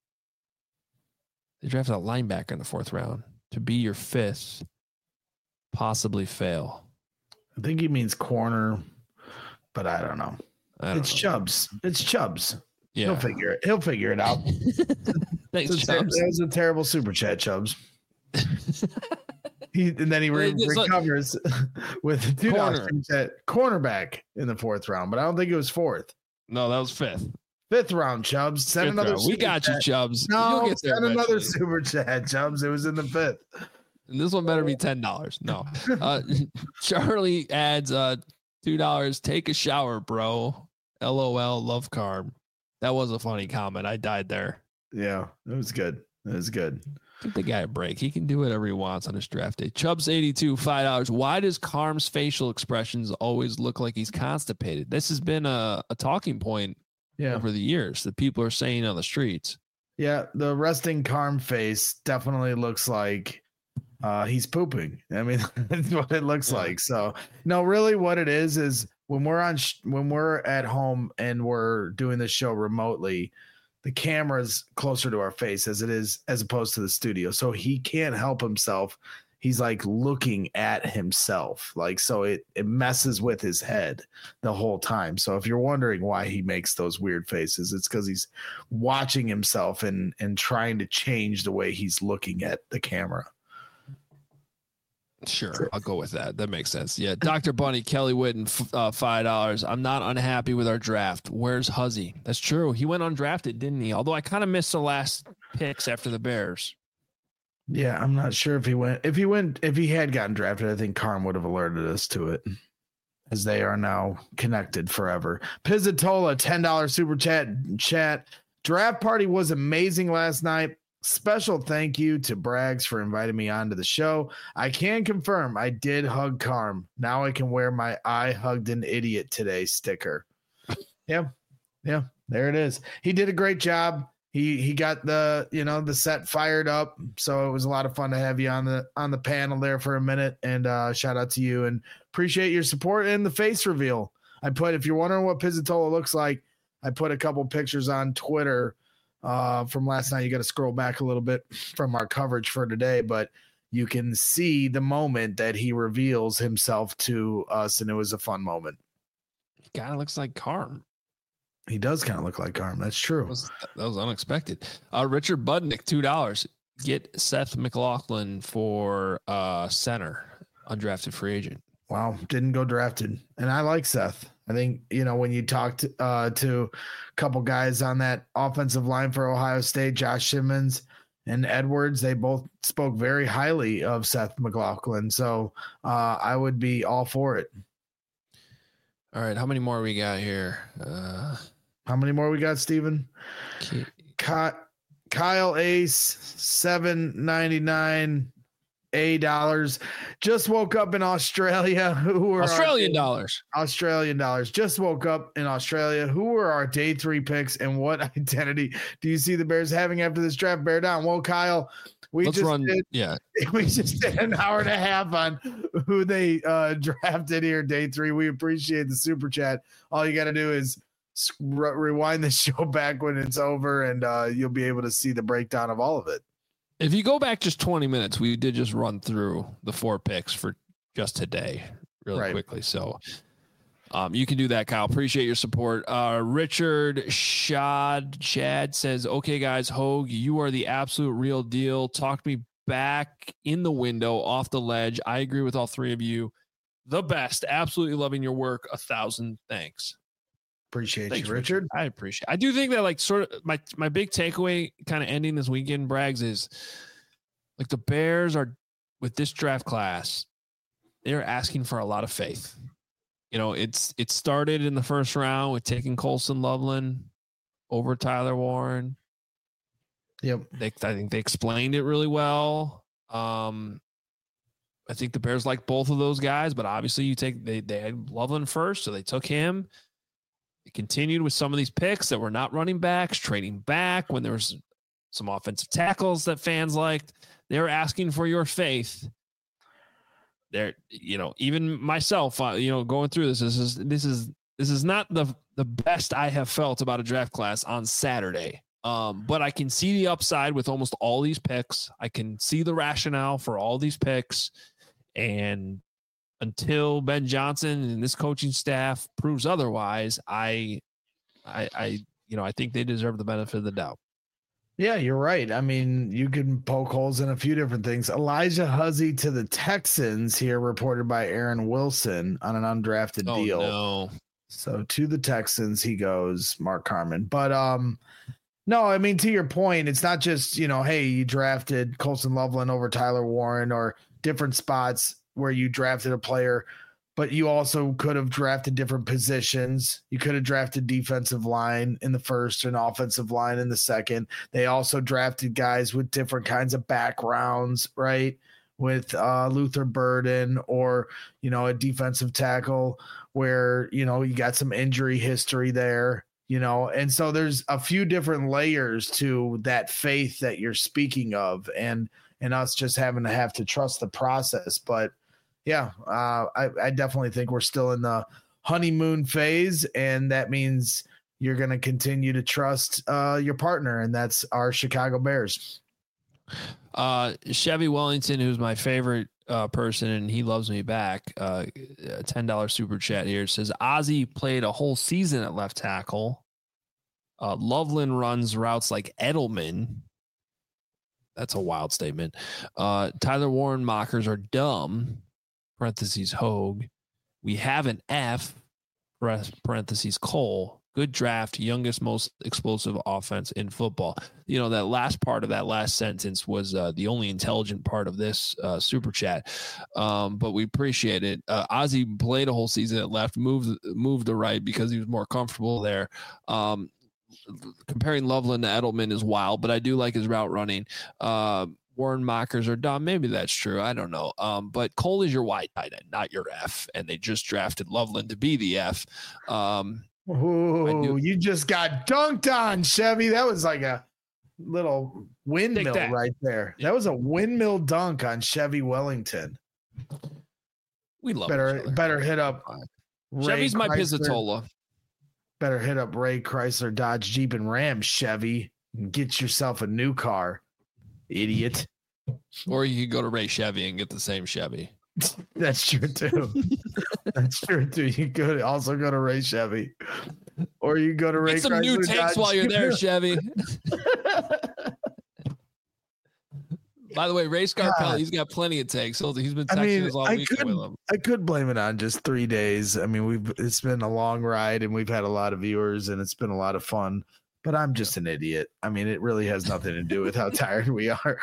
They drafted a linebacker in the fourth round to be your fifth, possibly fail. I think he means corner, but I don't know. I don't it's know. Chubbs. It's Chubbs. Yeah. He'll figure it. He'll figure it out. Thanks, ter- Chubbs. That was a terrible super chat, Chubbs. he and then he re- recovers with a two dollars chat cornerback in the fourth round, but I don't think it was fourth. No, that was fifth. Fifth round, Chubbs. Send fifth another. Round. We got chat. you, Chubbs. No, You'll get there send another eventually. super chat, Chubbs. It was in the fifth. And this one better be ten dollars. No. Uh, Charlie adds uh, two dollars. Take a shower, bro. L O L. Love Carm. That was a funny comment. I died there. Yeah, it was good. It was good. Give the guy a break. He can do whatever he wants on his draft day. Chubbs eighty-two, five dollars. Why does Carm's facial expressions always look like he's constipated? This has been a, a talking point yeah. over the years that people are saying on the streets. Yeah, the resting Carm face definitely looks like uh, he's pooping. I mean, that's what it looks yeah. like. So, no, really what it is is when we're on sh- when we're at home and we're doing the show remotely, the camera's closer to our face as it is as opposed to the studio. So he can't help himself he's like looking at himself. Like, so it, it messes with his head the whole time. So if you're wondering why he makes those weird faces, it's because he's watching himself and, and trying to change the way he's looking at the camera. Sure, I'll go with that. That makes sense. Yeah, Doctor Bunny, Kelly Whitten, uh, five dollars. I'm not unhappy with our draft. Where's Huzzy? That's true. He went undrafted, didn't he? Although I kind of missed the last picks after the Bears. Yeah, I'm not sure if he went. If he went, if he had gotten drafted, I think Carm would have alerted us to it, as they are now connected forever. Pizzatola, ten dollars super chat. Chat draft party was amazing last night. Special thank you to Braggs for inviting me onto the show. I can confirm I did hug Carm. Now I can wear my I hugged an idiot today sticker. Yeah. Yeah. There it is. He did a great job. He he got the, you know, the set fired up. So it was a lot of fun to have you on the on the panel there for a minute. And uh, shout out to you and appreciate your support and the face reveal. I put, if you're wondering what Pizzatola looks like, I put a couple pictures on Twitter Uh, from last night. You got to scroll back a little bit from our coverage for today, but you can see the moment that he reveals himself to us, and it was a fun moment. He kind of looks like Carm. He does kind of look like Carm. That's true. That was, that was unexpected. Uh, Richard Budnick, two dollars. Get Seth McLaughlin for uh, center, undrafted free agent. Wow, didn't go drafted. And I like Seth. I think, you know, when you talked uh, to a couple guys on that offensive line for Ohio State, Josh Simmons and Edwards, they both spoke very highly of Seth McLaughlin. So uh, I would be all for it. All right, how many more we got here? Uh, how many more we got, Steven? Ky- Kyle Ace, seven ninety-nine. A dollars. Just woke up in Australia. Who were Australian our, dollars? Australian dollars. Just woke up in Australia. Who were our day three picks, and what identity do you see the Bears having after this draft? Bear down. Well, Kyle, we Let's just run. Did, yeah, we just did an hour and a half on who they uh, drafted here, day three. We appreciate the super chat. All you got to do is re- rewind the show back when it's over, and uh, you'll be able to see the breakdown of all of it. If you go back just twenty minutes, we did just run through the four picks for just today really right. quickly. So um, you can do that, Kyle. Appreciate your support. Uh, Richard Shad Chad says, okay, guys, Hogue, you are the absolute real deal. Talk me back in the window off the ledge. I agree with all three of you. The best. Absolutely loving your work. A thousand thanks. Appreciate Thanks, you, Richard. Richard. I appreciate it. I do think that, like, sort of my, my big takeaway kind of ending this weekend, Braggs, is like the Bears are with this draft class, they're asking for a lot of faith. You know, it's it started in the first round with taking Colson Loveland over Tyler Warren. Yep. They, I think they explained it really well. Um, I think the Bears like both of those guys, but obviously you take they they had Loveland first, so they took him. It continued with some of these picks that were not running backs, trading back when there was some offensive tackles that fans liked. They were asking for your faith. There, you know, even myself, uh, you know, going through this, this is this is this is not the the best I have felt about a draft class on Saturday. Um, but I can see the upside with almost all these picks. I can see the rationale for all these picks, and until Ben Johnson and this coaching staff proves otherwise, I, I, I, you know, I think they deserve the benefit of the doubt. Yeah, you're right. I mean, you can poke holes in a few different things. Elijah Huzzy to the Texans here, reported by Aaron Wilson on an undrafted oh, deal. No. So to the Texans he goes, Mark Carman. But um, no, I mean, to your point, it's not just, you know, hey, you drafted Colson Loveland over Tyler Warren or different spots where you drafted a player, but you also could have drafted different positions. You could have drafted defensive line in the first and offensive line in the second. They also drafted guys with different kinds of backgrounds, right? With uh, Luther Burden or, you know, a defensive tackle where, you know, you got some injury history there, you know, and so there's a few different layers to that faith that you're speaking of, and, and us just having to have to trust the process. But yeah, uh, I, I definitely think we're still in the honeymoon phase, and that means you're going to continue to trust uh, your partner, and that's our Chicago Bears. Uh, Chevy Wellington, who's my favorite uh, person, and he loves me back. Uh, a ten dollars super chat here says Ozzie played a whole season at left tackle. Uh, Loveland runs routes like Edelman. That's a wild statement. Uh, Tyler Warren mockers are dumb. Parentheses Hogue. We have an F. Parentheses Cole. Good draft, youngest, most explosive offense in football. You know, that last part of that last sentence was uh, the only intelligent part of this uh, super chat. Um, but we appreciate it. Uh, Ozzie played a whole season at left, moved moved to right because he was more comfortable there. Um, comparing Loveland to Edelman is wild, but I do like his route running. Uh, Warren mockers are dumb. Maybe that's true. I don't know. Um, but Cole is your Y tight end, not your F. And they just drafted Loveland to be the F. Um, Oh, you just got dunked on, Chevy. That was like a little windmill right there. That was a windmill dunk on Chevy Wellington. We love better better hit up Chevy's Ray my Chrysler. Pizzatola. Better hit up Ray Chrysler, Dodge, Jeep, and Ram, Chevy, and get yourself a new car, idiot. Or you could go to Ray Chevy and get the same Chevy. That's true too. That's true too. You could also go to Ray Chevy, or you go to Ray. Get some Chrysler, new takes Dodge. while you're there, Chevy. By the way, Ray Scarpelli, he's got plenty of takes. He's been texting I mean, us all I weekend could, with him. I could blame it on just three days. I mean, we've it's been a long ride, and we've had a lot of viewers, and it's been a lot of fun. But I'm just an idiot. I mean, it really has nothing to do with how tired we are.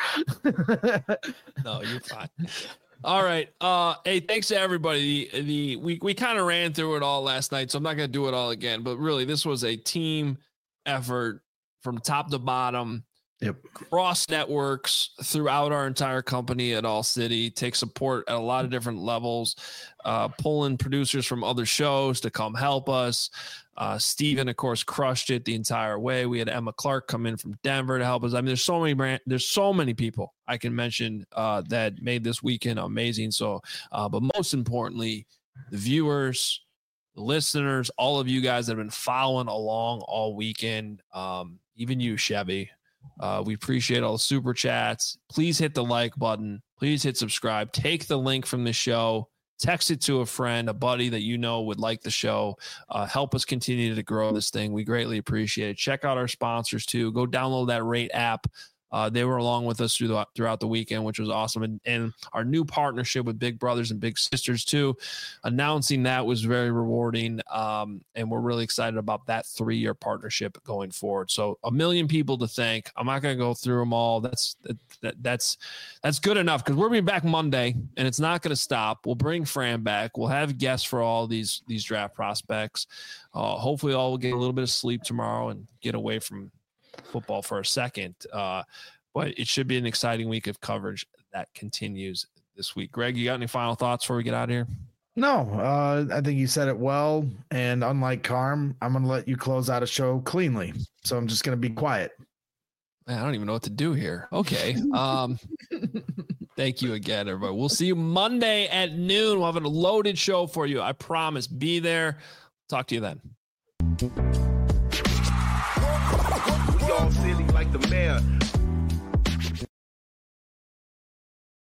No, you're fine. All right. Uh, hey, thanks to everybody. The, the we we kind of ran through it all last night, so I'm not going to do it all again. But really, this was a team effort from top to bottom. Yep. Cross networks throughout our entire company at All City. Take support at a lot of different levels. Uh, pull in producers from other shows to come help us. Uh, Steven, of course, crushed it the entire way. We had Emma Clark come in from Denver to help us. I mean, there's so many brand, there's so many people I can mention uh, that made this weekend amazing. So, uh, but most importantly, the viewers, the listeners, all of you guys that have been following along all weekend, um, even you, Chevy. Uh, we appreciate all the super chats. Please hit the like button. Please hit subscribe. Take the link from the show. Text it to a friend, a buddy that you know would like the show. Uh, help us continue to grow this thing. We greatly appreciate it. Check out our sponsors too. Go download that Rate app. Uh, they were along with us through the, throughout the weekend, which was awesome. And, and our new partnership with Big Brothers and Big Sisters too, announcing that was very rewarding. Um, and we're really excited about that three-year partnership going forward. So a million people to thank. I'm not going to go through them all. That's that, that, that's that's good enough because we're being back Monday, and it's not going to stop. We'll bring Fran back. We'll have guests for all these these draft prospects. Uh, hopefully, all will get a little bit of sleep tomorrow and get away from football for a second. Uh, but it should be an exciting week of coverage that continues this week. Greg, you got any final thoughts before we get out of here? No, uh, I think you said it well. And unlike Carm, I'm going to let you close out a show cleanly. So I'm just going to be quiet. Man, I don't even know what to do here. Okay. Um, thank you again, everybody. We'll see you Monday at noon. We'll have a loaded show for you. I promise. Be there. Talk to you then.